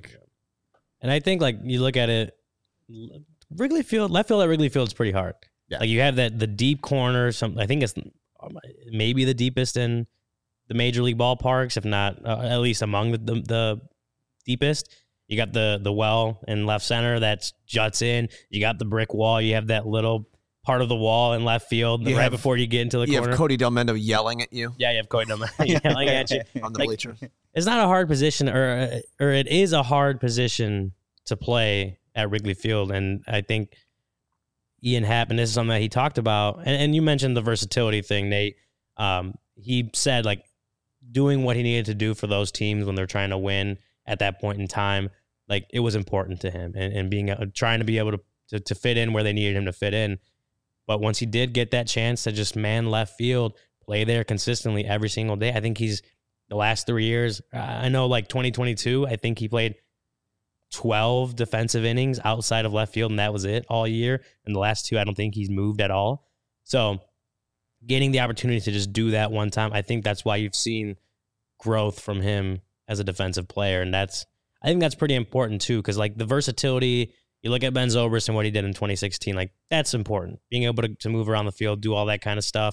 And I think you look at it, Wrigley Field, left field at Wrigley Field is pretty hard. Yeah. You have the deep corner. I think it's maybe the deepest in the major league ballparks, if not at least among the deepest. You got the well in left center that juts in. You got the brick wall. You have that little part of the wall in left field before you get into the corner. You have Cody Delmendo yelling at you. Yeah, you have Cody Delmendo yelling at you on the bleachers. It's not a hard position, or it is a hard position to play at Wrigley Field, and I think Ian Happ, and this is something that he talked about, and you mentioned the versatility thing, Nate. He said doing what he needed to do for those teams when they're trying to win at that point in time, it was important to him, and being trying to be able to fit in where they needed him to fit in. But once he did get that chance to just man left field, play there consistently every single day, I think he's the last 3 years. I know 2022, I think he played 12 defensive innings outside of left field, and that was it all year. And the last 2, I don't think he's moved at all. So getting the opportunity to just do that one time, I think that's why you've seen growth from him as a defensive player. And I think that's pretty important too, because the versatility, you look at Ben Zobrist and what he did in 2016, that's important. Being able to move around the field, do all that kind of stuff.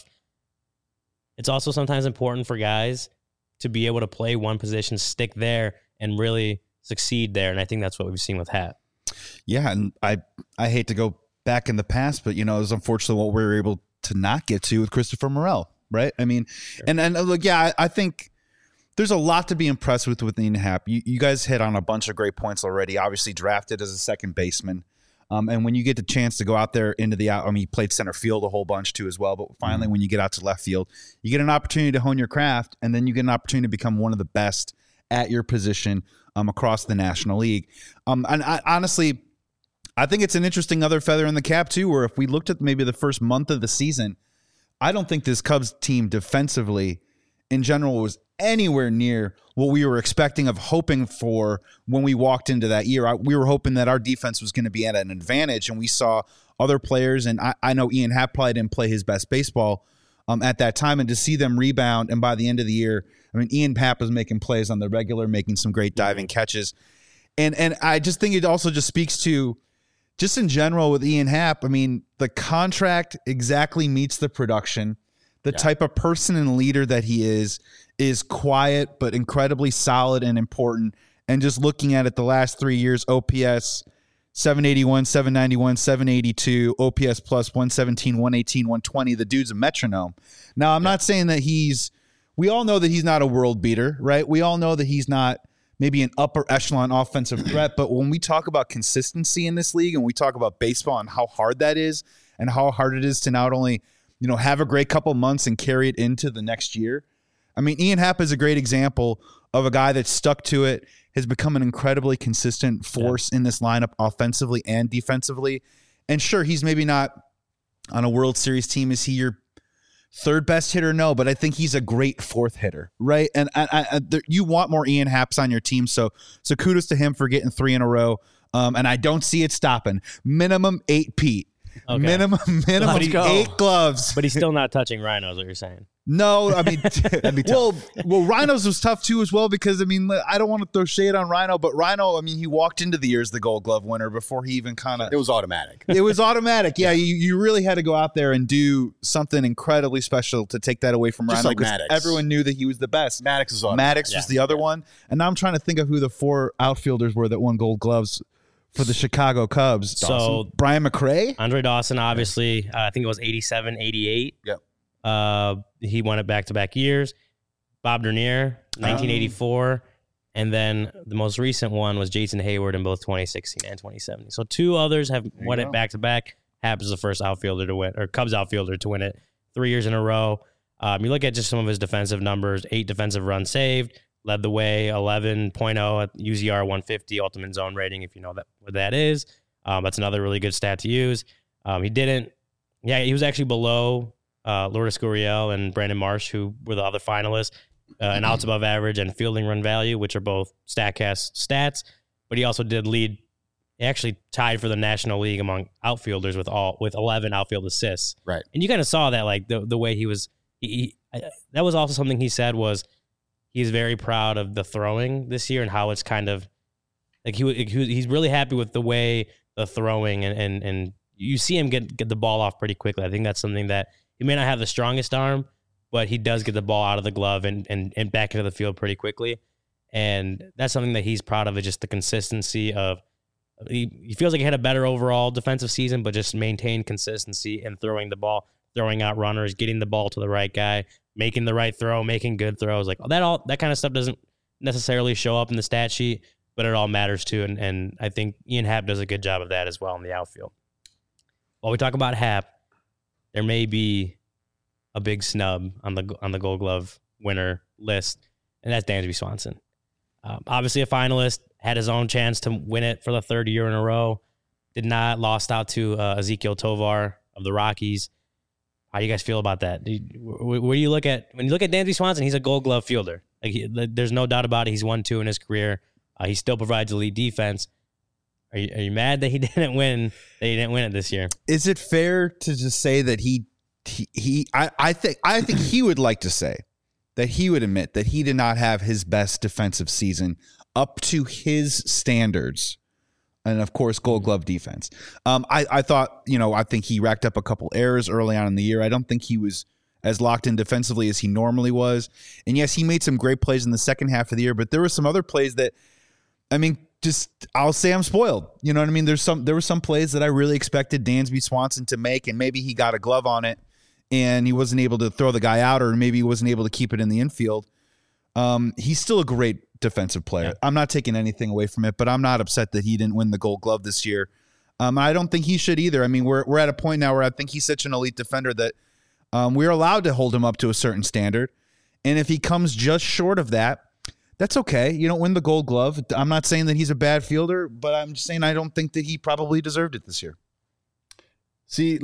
It's also sometimes important for guys to be able to play one position, stick there, and really succeed there. And I think that's what we've seen with Happ. Yeah, and I hate to go back in the past, but it was unfortunately what we were able to not get to with Christopher Morel, right? I mean, sure. and look, yeah, I think there's a lot to be impressed with Ian Happ. You guys hit on a bunch of great points already. Obviously drafted as a second baseman. And when you get the chance to go out there into he played center field a whole bunch too as well. But finally, when you get out to left field, you get an opportunity to hone your craft, and then you get an opportunity to become one of the best at your position across the National League. And honestly, I think it's an interesting other feather in the cap too, where if we looked at maybe the first month of the season, I don't think this Cubs team defensively in general was anywhere near what we were expecting of hoping for when we walked into that year. We were hoping that our defense was going to be at an advantage, and we saw other players, and I know Ian Happ probably didn't play his best baseball at that time, and to see them rebound, and by the end of the year, Ian Happ was making plays on the regular, making some great diving catches. And I just think it also just speaks to, just in general with Ian Happ, the contract exactly meets the production. The type of person and leader that he is quiet but incredibly solid and important. And just looking at it the last 3 years, OPS 781, 791, 782, OPS plus 117, 118, 120. The dude's a metronome. Now, I'm not saying that we all know that he's not a world beater, right? We all know that he's not maybe an upper echelon offensive threat. But when we talk about consistency in this league and we talk about baseball and how hard that is and how hard it is to not only have a great couple months and carry it into the next year. Ian Happ is a great example of a guy that stuck to it, has become an incredibly consistent force in this lineup offensively and defensively. And sure, he's maybe not on a World Series team. Is he your third best hitter? No, but I think he's a great fourth hitter, right? And you want more Ian Happs on your team. So kudos to him for getting 3 in a row. And I don't see it stopping. Minimum 8 Pete. Okay. Minimum 8 gloves. But he's still not touching Rhino, is what you're saying. No, that'd be tough. Well, Rhino's was tough too as well, because I don't want to throw shade on Rhino, but Rhino, he walked into the year as the Gold Glove winner before he even it was automatic. It was automatic. Yeah, you really had to go out there and do something incredibly special to take that away from Just Rhino. Like Maddox. Everyone knew that he was the best. Maddox was the other one, and now I'm trying to think of who the 4 outfielders were that won Gold Gloves for the Chicago Cubs. So Brian McRae? Andre Dawson, obviously, I think it was 87, 88. Yep. He won it back-to-back years. Bob Dernier, 1984. And then the most recent one was Jason Hayward in both 2016 and 2017. So two others have won it back-to-back. Happ is the first outfielder to win, or Cubs outfielder to win it 3 years in a row. You look at just some of his defensive numbers, 8 defensive runs saved, led the way, 11.0 at UZR 150, ultimate zone rating, if you know what that is. That's another really good stat to use. He was actually below Lourdes Gurriel and Brandon Marsh, who were the other finalists, and outs above average and fielding run value, which are both StatCast stats. But he also did lead. He actually tied for the National League among outfielders with 11 outfield assists. Right. And you kind of saw that, like the way he was. That was also something he said was he's very proud of the throwing this year and how it's kind of like he's really happy with the way the throwing and you see him get the ball off pretty quickly. I think that's something that he may not have the strongest arm, but he does get the ball out of the glove and back into the field pretty quickly. And that's something that he's proud of, is just the consistency of he feels like he had a better overall defensive season, but just maintained consistency in throwing the ball, throwing out runners, getting the ball to the right guy, making the right throw, making good throws. Like that kind of stuff doesn't necessarily show up in the stat sheet, but it all matters too. And I think Ian Happ does a good job of that as well in the outfield. While we talk about Happ, there may be a big snub on the Gold Glove winner list, and that's Dansby Swanson. Obviously a finalist, had his own chance to win it for the third year in a row. Did not, lost out to Ezekiel Tovar of the Rockies. How do you guys feel about that? Where do you look at when you look at Dansby Swanson? He's a Gold Glove fielder. There's no doubt about it. He's won 2 in his career. He still provides elite defense. Are you mad that he didn't win? That he didn't win it this year? Is it fair to just say that I think he would like to say that he would admit that he did not have his best defensive season up to his standards, and of course, Gold Glove defense. I thought, I think he racked up a couple errors early on in the year. I don't think he was as locked in defensively as he normally was. And yes, he made some great plays in the second half of the year, but there were some other plays that, I'll say I'm spoiled. You know what I mean? There were some plays that I really expected Dansby Swanson to make, and maybe he got a glove on it and he wasn't able to throw the guy out, or maybe he wasn't able to keep it in the infield. He's still a great defensive player. Yeah. I'm not taking anything away from it, but I'm not upset that he didn't win the Gold Glove this year. I don't think he should either. We're at a point now where I think he's such an elite defender that we're allowed to hold him up to a certain standard. And if he comes just short of that, that's okay. You don't win the Gold Glove. I'm not saying that he's a bad fielder, but I'm just saying I don't think that he probably deserved it this year. See,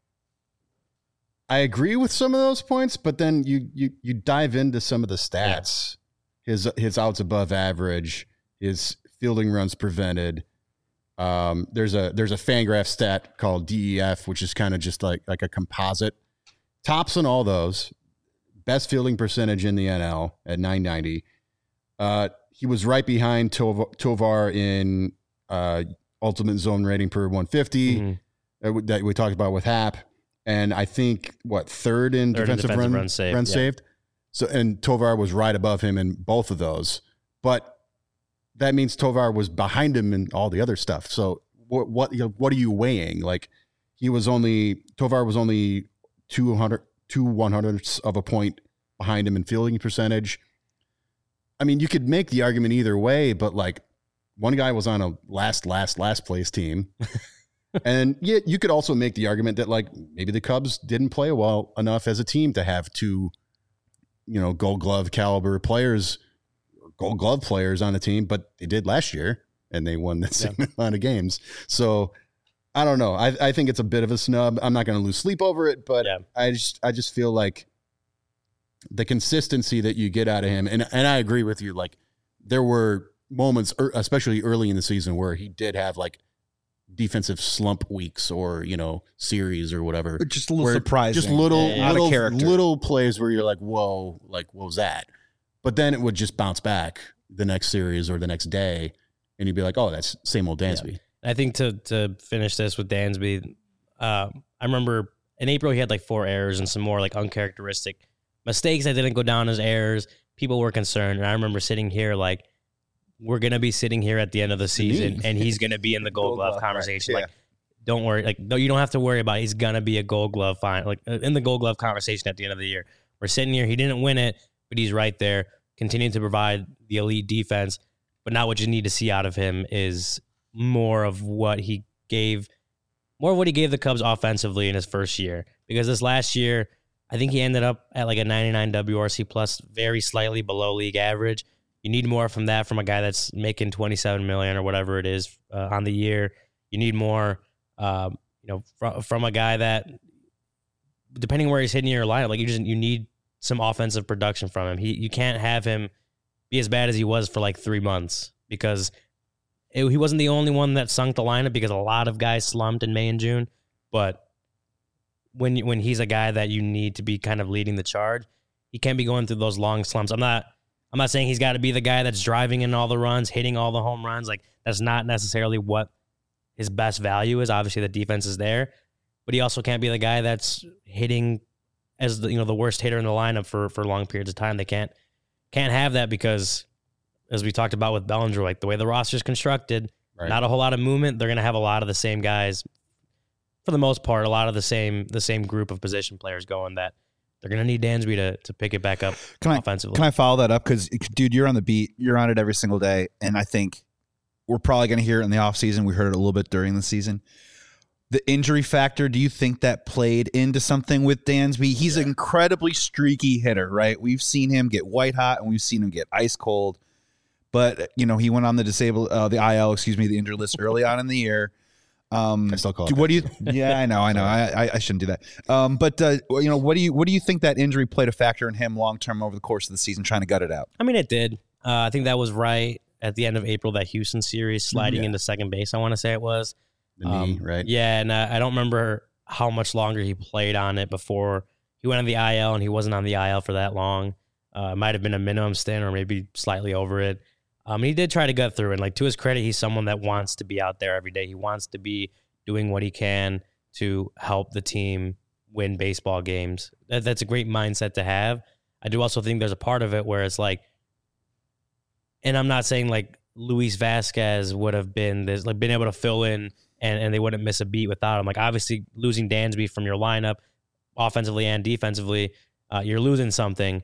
I agree with some of those points, but then you dive into some of the stats. Yeah. His outs above average, his fielding runs prevented. There's a Fangraph stat called DEF, which is kind of just like a composite. Tops in all those. Best fielding percentage in the NL at 990. He was right behind Tovar in ultimate zone rating per 150 that we talked about with Happ. And I think third in defensive run saved. So, and Tovar was right above him in both of those, but that means Tovar was behind him in all the other stuff. So what are you weighing? Tovar was only 2/100ths of a point behind him in fielding percentage. You could make the argument either way, but one guy was on a last place team. And yeah, you could also make the argument that maybe the Cubs didn't play well enough as a team to have 2, Gold Glove caliber players, Gold Glove players on the team, but they did last year and they won the same amount of games. So I don't know. I think it's a bit of a snub. I'm not going to lose sleep over it, but I just feel like the consistency that you get out of him, and I agree with you. There were moments, especially early in the season, where he did have defensive slump weeks or series or whatever, just a little surprising, just little plays where you're like, whoa, what was that? But then it would just bounce back the next series or the next day, and you'd be like, oh, that's same old Dansby. I think to finish this with Dansby, I remember in April he had 4 errors and some more uncharacteristic mistakes that didn't go down as errors. People were concerned, and I remember sitting here we're going to be sitting here at the end of the season and he's going to be in the Gold Glove conversation. Right. Like, don't worry. Like, no, you don't have to worry about it. He's going to be a Gold Glove in the Gold Glove conversation at the end of the year. We're sitting here. He didn't win it, but he's right there, continuing to provide the elite defense. But now what you need to see out of him is more of what he gave the Cubs offensively in his first year. Because this last year, I think he ended up at like a 99 WRC plus, very slightly below league average. You need more from that from a guy that's making $27 million or whatever it is on the year. You need more, from a guy that, depending where he's hitting your lineup, like you need some offensive production from him. You can't have him be as bad as he was for like 3 months, because he wasn't the only one that sunk the lineup, because a lot of guys slumped in May and June. But when he's a guy that you need to be kind of leading the charge, he can't be going through those long slumps. I'm not saying he's got to be the guy that's driving in all the runs, hitting all the home runs. Like, that's not necessarily what his best value is. Obviously, the defense is there, but he also can't be the guy that's hitting as the worst hitter in the lineup for long periods of time. They can't have that, because, as we talked about with Bellinger, like the way the roster is constructed, right, not a whole lot of movement. They're going to have a lot of the same guys, for the most part, a lot of the same group of position players going, that they're going to need Dansby to pick it back up offensively. Can I follow that up? Because, dude, you're on the beat. You're on it every single day. And I think we're probably going to hear it in the offseason. We heard it a little bit during the season. The injury factor, do you think that played into something with Dansby? He's an incredibly streaky hitter, right? We've seen him get white hot, and we've seen him get ice cold. But, he went on the the injured list early on in the year. I still call it. What do you? Yeah, I know. I shouldn't do that. But what do you think that injury played a factor in him long term over the course of the season, trying to gut it out? I mean, it did. I think that was right at the end of April, that Houston series, sliding into second base. I want to say it was the knee, right? Yeah, and I don't remember how much longer he played on it before he went on the IL, and he wasn't on the IL for that long. It might have been a minimum stint, or maybe slightly over it. He did try to gut through, and to his credit, he's someone that wants to be out there every day. He wants to be doing what he can to help the team win baseball games. That's a great mindset to have. I do also think there's a part of it where it's like, and I'm not saying like Luis Vasquez would have been this, like been able to fill in and they wouldn't miss a beat without him. Like, obviously losing Dansby from your lineup, offensively and defensively, you're losing something.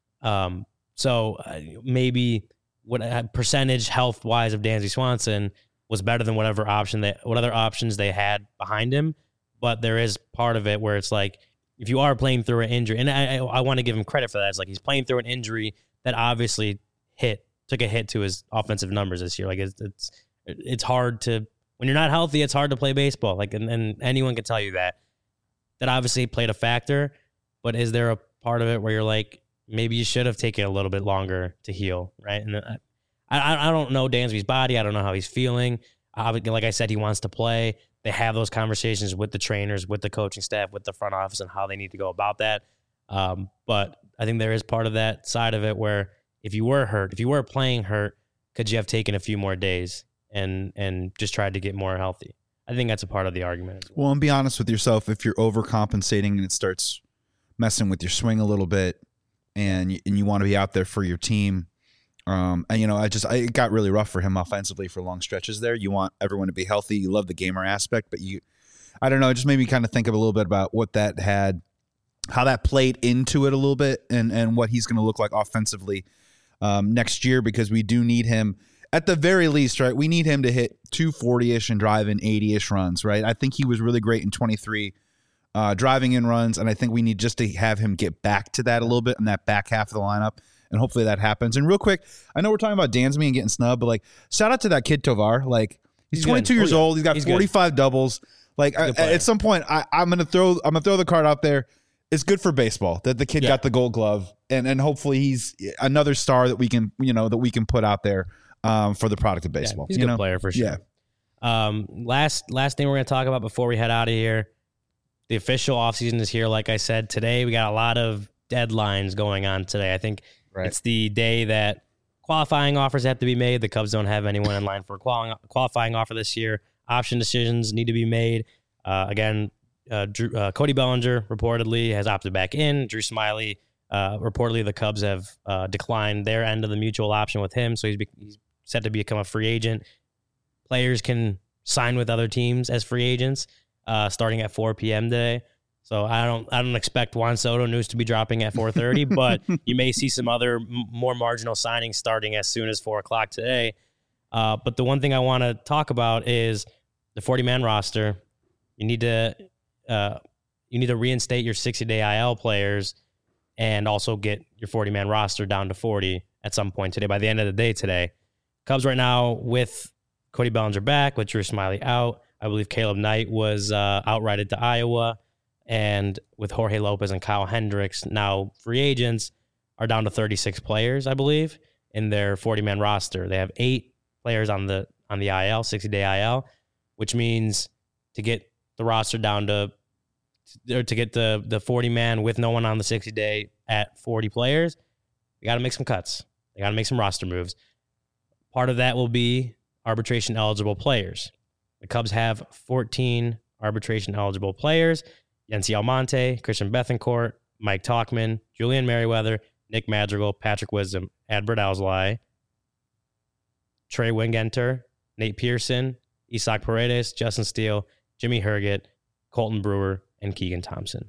So maybe what percentage health wise of Dansby Swanson was better than what other options they had behind him. But there is part of it where it's like, if you are playing through an injury, and I want to give him credit for that. It's like, he's playing through an injury that obviously took a hit to his offensive numbers this year. Like, it's hard to, when you're not healthy, it's hard to play baseball. Like, and anyone can tell you that obviously played a factor. But is there a part of it where you're like, maybe you should have taken a little bit longer to heal, right? And I don't know Dansby's body. I don't know how he's feeling. Like I said, he wants to play. They have those conversations with the trainers, with the coaching staff, with the front office, and how they need to go about that. But I think there is part of that side of it where if you were hurt, if you were playing hurt, could you have taken a few more days and just tried to get more healthy? I think that's a part of the argument as well. Well, and be honest with yourself. If you're overcompensating and it starts messing with your swing a little bit, and you want to be out there for your team, and it got really rough for him offensively for long stretches there. You want everyone to be healthy. You love the gamer aspect, but I don't know, it just made me kind of think of a little bit about what that had, how that played into it a little bit, and what he's going to look like offensively next year, because we do need him at the very least, right? We need him to hit 240-ish and drive in 80-ish runs, right? I think he was really great in 23 driving in runs, and I think we need just to have him get back to that a little bit in that back half of the lineup, and hopefully that happens. And real quick, I know we're talking about Dansby and getting snubbed, but like, shout out to that kid Tovar. Like, he's 22 years old. He's got 45 doubles. Like, at some point, I'm gonna throw the card out there. It's good for baseball that the kid got the Gold Glove, and hopefully he's another star that we can put out there for the product of baseball. He's a good player for sure. Yeah. Last thing we're gonna talk about before we head out of here. The official offseason is here. Like I said, today we got a lot of deadlines going on today. I think it's the day that qualifying offers have to be made. The Cubs don't have anyone in line for a qualifying offer this year. Option decisions need to be made. Cody Bellinger reportedly has opted back in. Drew Smyly, reportedly the Cubs have declined their end of the mutual option with him, so he's set to become a free agent. Players can sign with other teams as free agents starting at 4 p.m. today. So I don't expect Juan Soto news to be dropping at 4:30, but you may see some other more marginal signings starting as soon as 4 o'clock today. But the one thing I want to talk about is the 40-man roster. You need to reinstate your 60-day IL players and also get your 40-man roster down to 40 at some point today. By the end of the day today, Cubs right now with Cody Bellinger back, with Drew Smyly out. I believe Caleb Knight was outrighted to Iowa. And with Jorge Lopez and Kyle Hendricks now free agents, are down to 36 players, I believe, in their 40-man roster. They have 8 players on the IL, 60-day IL, which means to get the roster down to get the 40-man with no one on the 60-day at 40 players, they got to make some cuts. They got to make some roster moves. Part of that will be arbitration-eligible players. The Cubs have 14 arbitration-eligible players. Yency Almonte, Christian Bethancourt, Mike Tauchman, Julian Merriweather, Nick Madrigal, Patrick Wisdom, Adbert Alzolay, Trey Wingenter, Nate Pearson, Isaac Paredes, Justin Steele, Jimmy Herget, Colton Brewer, and Keegan Thompson.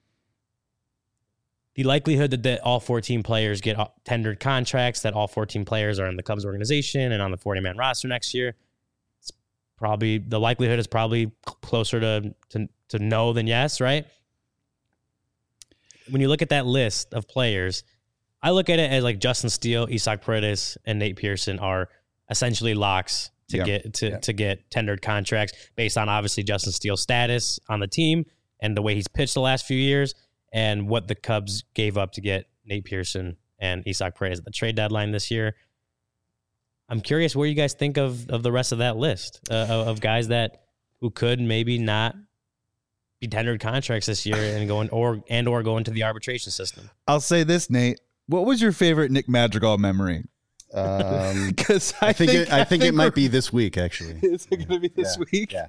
The likelihood that all 14 players get tendered contracts, that all 14 players are in the Cubs organization and on the 40-man roster next year, the likelihood is probably closer to no than yes, right? When you look at that list of players, I look at it as like Justin Steele, Isaac Paredes, and Nate Pearson are essentially locks to get tendered contracts based on obviously Justin Steele's status on the team and the way he's pitched the last few years and what the Cubs gave up to get Nate Pearson and Isaac Paredes at the trade deadline this year. I'm curious where you guys think of the rest of that list of guys who could maybe not be tendered contracts this year and go into the arbitration system. I'll say this, Nate. What was your favorite Nick Madrigal memory? Because I think it might be this week. Actually, is it going to be this week? Yeah.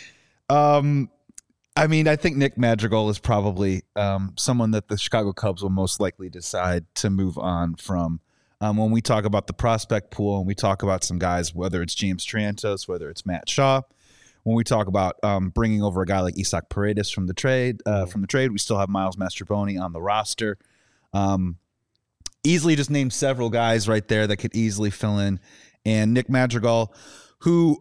I mean, I think Nick Madrigal is probably someone that the Chicago Cubs will most likely decide to move on from. When we talk about the prospect pool and we talk about some guys, whether it's James Triantos, whether it's Matt Shaw, when we talk about bringing over a guy like Isaac Paredes from the trade, we still have Miles Mastrobuoni on the roster. Easily just named several guys right there that could easily fill in. And Nick Madrigal, who,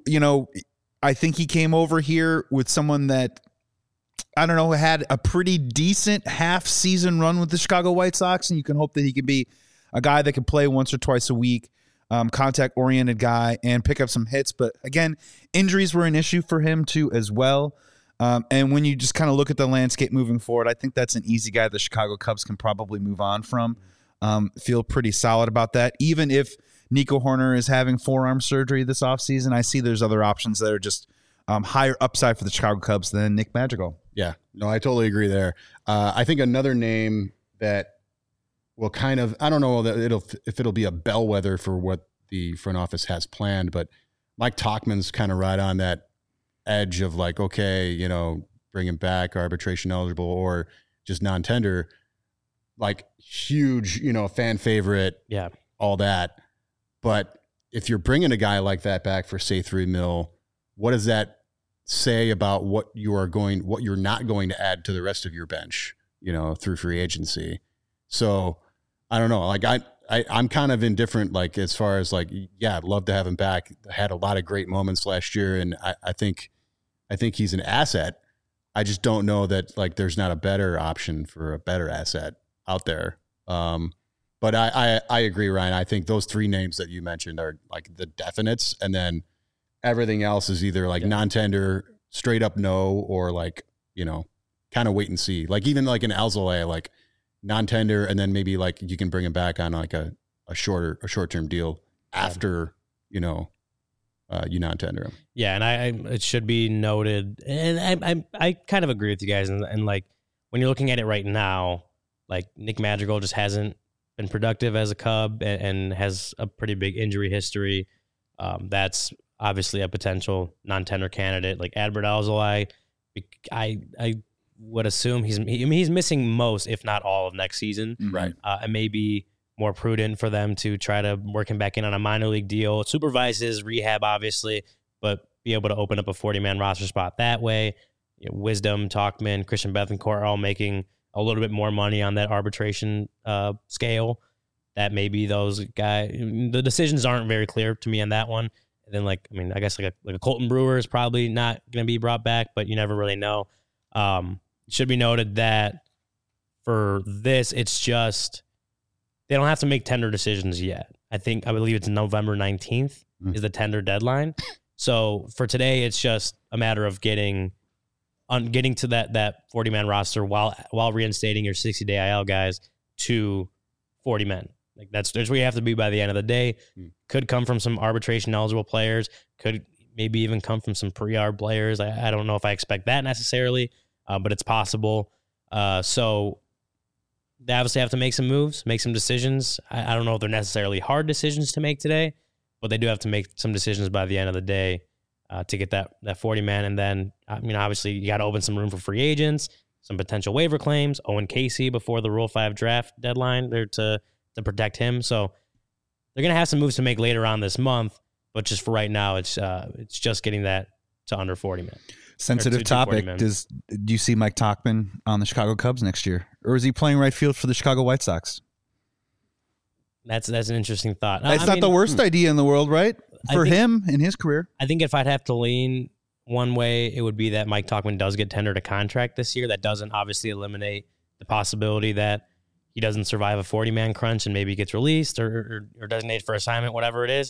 I think he came over here with someone that, I don't know, had a pretty decent half-season run with the Chicago White Sox, and you can hope that he can be a guy that can play once or twice a week, contact-oriented guy, and pick up some hits. But again, injuries were an issue for him too as well. And when you just kind of look at the landscape moving forward, I think that's an easy guy the Chicago Cubs can probably move on from. Feel pretty solid about that. Even if Nico Hoerner is having forearm surgery this offseason, I see there's other options that are just higher upside for the Chicago Cubs than Nick Madrigal. Yeah, no, I totally agree there. I think another name that will kind of, I don't know that it'll be a bellwether for what the front office has planned, but Mike Tauchman's kind of right on that edge of like, okay, bring him back, arbitration eligible or just non-tender, like huge, fan favorite, yeah, all that. But if you're bringing a guy like that back for say $3 million, what does that say about what you're not going to add to the rest of your bench, through free agency? So I don't know. Like I'm kind of indifferent, like as far as like, yeah, I'd love to have him back. Had a lot of great moments last year. And I think he's an asset. I just don't know that like there's not a better option for a better asset out there. But I agree, Ryan. I think those 3 names that you mentioned are like the definites. And then everything else is either like non-tender, straight up no, or like, kind of wait and see. Like even like an Alzolay, like non-tender, and then maybe like you can bring him back on like a short-term deal after, you non-tender him. Yeah, and it should be noted, and I kind of agree with you guys, and like when you're looking at it right now, like Nick Madrigal just hasn't been productive as a Cub and has a pretty big injury history. That's obviously a potential non-tender candidate. Like Adbert Alzolay, I would assume he's missing most, if not all, of next season. Right. And maybe more prudent for them to try to work him back in on a minor league deal. Supervise his rehab, obviously, but be able to open up a 40-man roster spot that way. Wisdom, Tauchman, Christian Bethancourt are all making a little bit more money on that arbitration scale. That maybe those guys, the decisions aren't very clear to me on that one. And then, I guess like a Colton Brewer is probably not going to be brought back, but you never really know. It should be noted that for this, it's just they don't have to make tender decisions yet. I believe it's November 19th is the tender deadline. So for today, it's just a matter of getting to that 40-man roster while reinstating your 60-day IL guys to 40 men. Like that's where you have to be by the end of the day. Could come from some arbitration eligible players. Could maybe even come from some pre-arb players. I don't know if I expect that necessarily, but it's possible. So they obviously have to make some moves, make some decisions. I don't know if they're necessarily hard decisions to make today, but they do have to make some decisions by the end of the day to get that 40-man. And then, obviously you got to open some room for free agents, some potential waiver claims. Owen Casey before the Rule 5 draft deadline there to protect him. So they're going to have some moves to make later on this month, but just for right now, it's just getting that to under 40 men. Sensitive topic. Do you see Mike Tauchman on the Chicago Cubs next year? Or is he playing right field for the Chicago White Sox? That's an interesting thought. It's not the worst idea in the world, right? For him in his career. I think if I'd have to lean one way, it would be that Mike Tauchman does get tendered a contract this year. That doesn't obviously eliminate the possibility that he doesn't survive a 40-man crunch and maybe gets released or designated for assignment, whatever it is,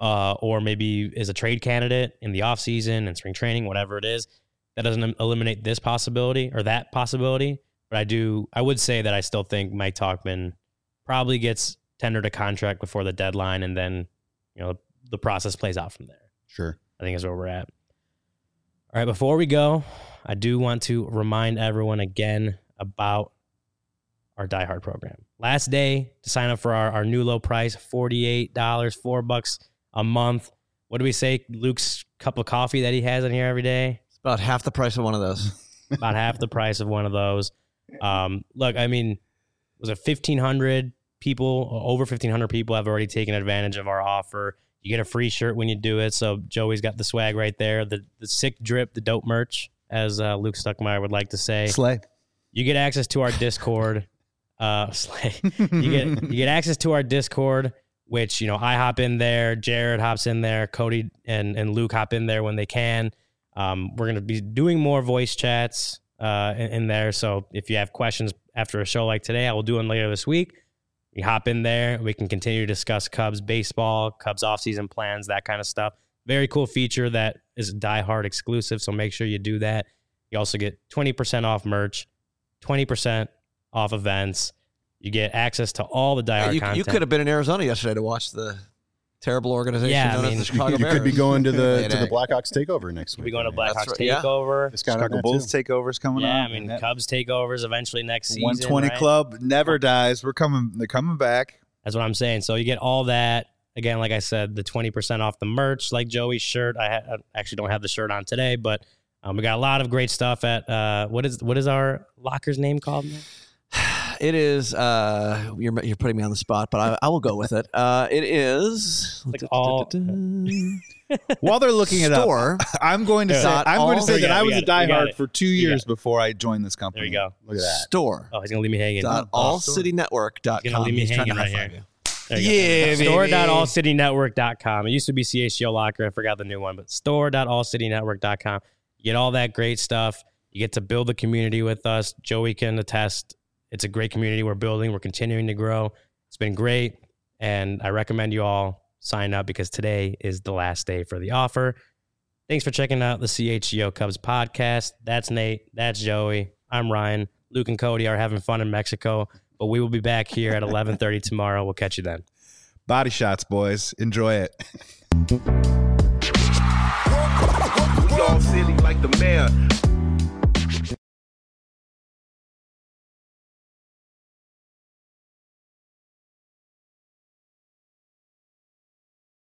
or maybe is a trade candidate in the offseason and spring training, whatever it is. That doesn't eliminate this possibility or that possibility. But I would say that I still think Mike Tauchman probably gets tendered a contract before the deadline, and then the process plays out from there. Sure. I think is where we're at. All right, before we go, I do want to remind everyone again about our Die Hard program. Last day to sign up for our new low price, $48, $4 a month. What do we say? Luke's cup of coffee that he has in here every day? It's about half the price of one of those. About half the price of one of those. Look, was it 1,500 people? Over 1,500 people have already taken advantage of our offer. You get a free shirt when you do it. So Joey's got the swag right there. The sick drip, the dope merch, as Luke Stuckmeyer would like to say. Slay. You get access to our Discord. Slay. You get access to our Discord, which I hop in there, Jared hops in there, Cody and Luke hop in there when they can. We're gonna be doing more voice chats in there. So if you have questions after a show like today, I will do them later this week. You hop in there. We can continue to discuss Cubs baseball, Cubs offseason plans, that kind of stuff. Very cool feature that is Die Hard exclusive. So make sure you do that. You also get 20% off merch, 20% off events. You get access to all the Die Hard content. You could have been in Arizona yesterday to watch the terrible organization known as the Chicago you Bears. could be going to the Blackhawks takeover next week. We'll be going to Blackhawks right, takeover. Yeah. Chicago Bulls takeovers coming up. Yeah, Cubs takeovers eventually next season. 120 right? Club never dies. They're coming back. That's what I'm saying. So you get all that. Again, like I said, the 20% off the merch, like Joey's shirt. I actually don't have the shirt on today, but we got a lot of great stuff at what is our locker's name called now? It is. You're putting me on the spot, but I will go with it. It is Like all. While they're looking it up, I'm going to say that I was a diehard for 2 years before I joined this company. There you go. Look at that. Store. Oh, he's gonna leave me hanging. allcitynetwork.com. He's gonna leave me He's trying hanging to right high-five here. you. Yeah, store.allcitynetwork.com. It used to be CHGO Locker. I forgot the new one, but store.allcitynetwork.com. You get all that great stuff. You get to build a community with us. Joey can attest. It's a great community we're building. We're continuing to grow. It's been great, and I recommend you all sign up because today is the last day for the offer. Thanks for checking out the CHGO Cubs podcast. That's Nate. That's Joey. I'm Ryan. Luke and Cody are having fun in Mexico, but we will be back here at 11:30 tomorrow. We'll catch you then. Body shots, boys. Enjoy it. We all silly like the mayor.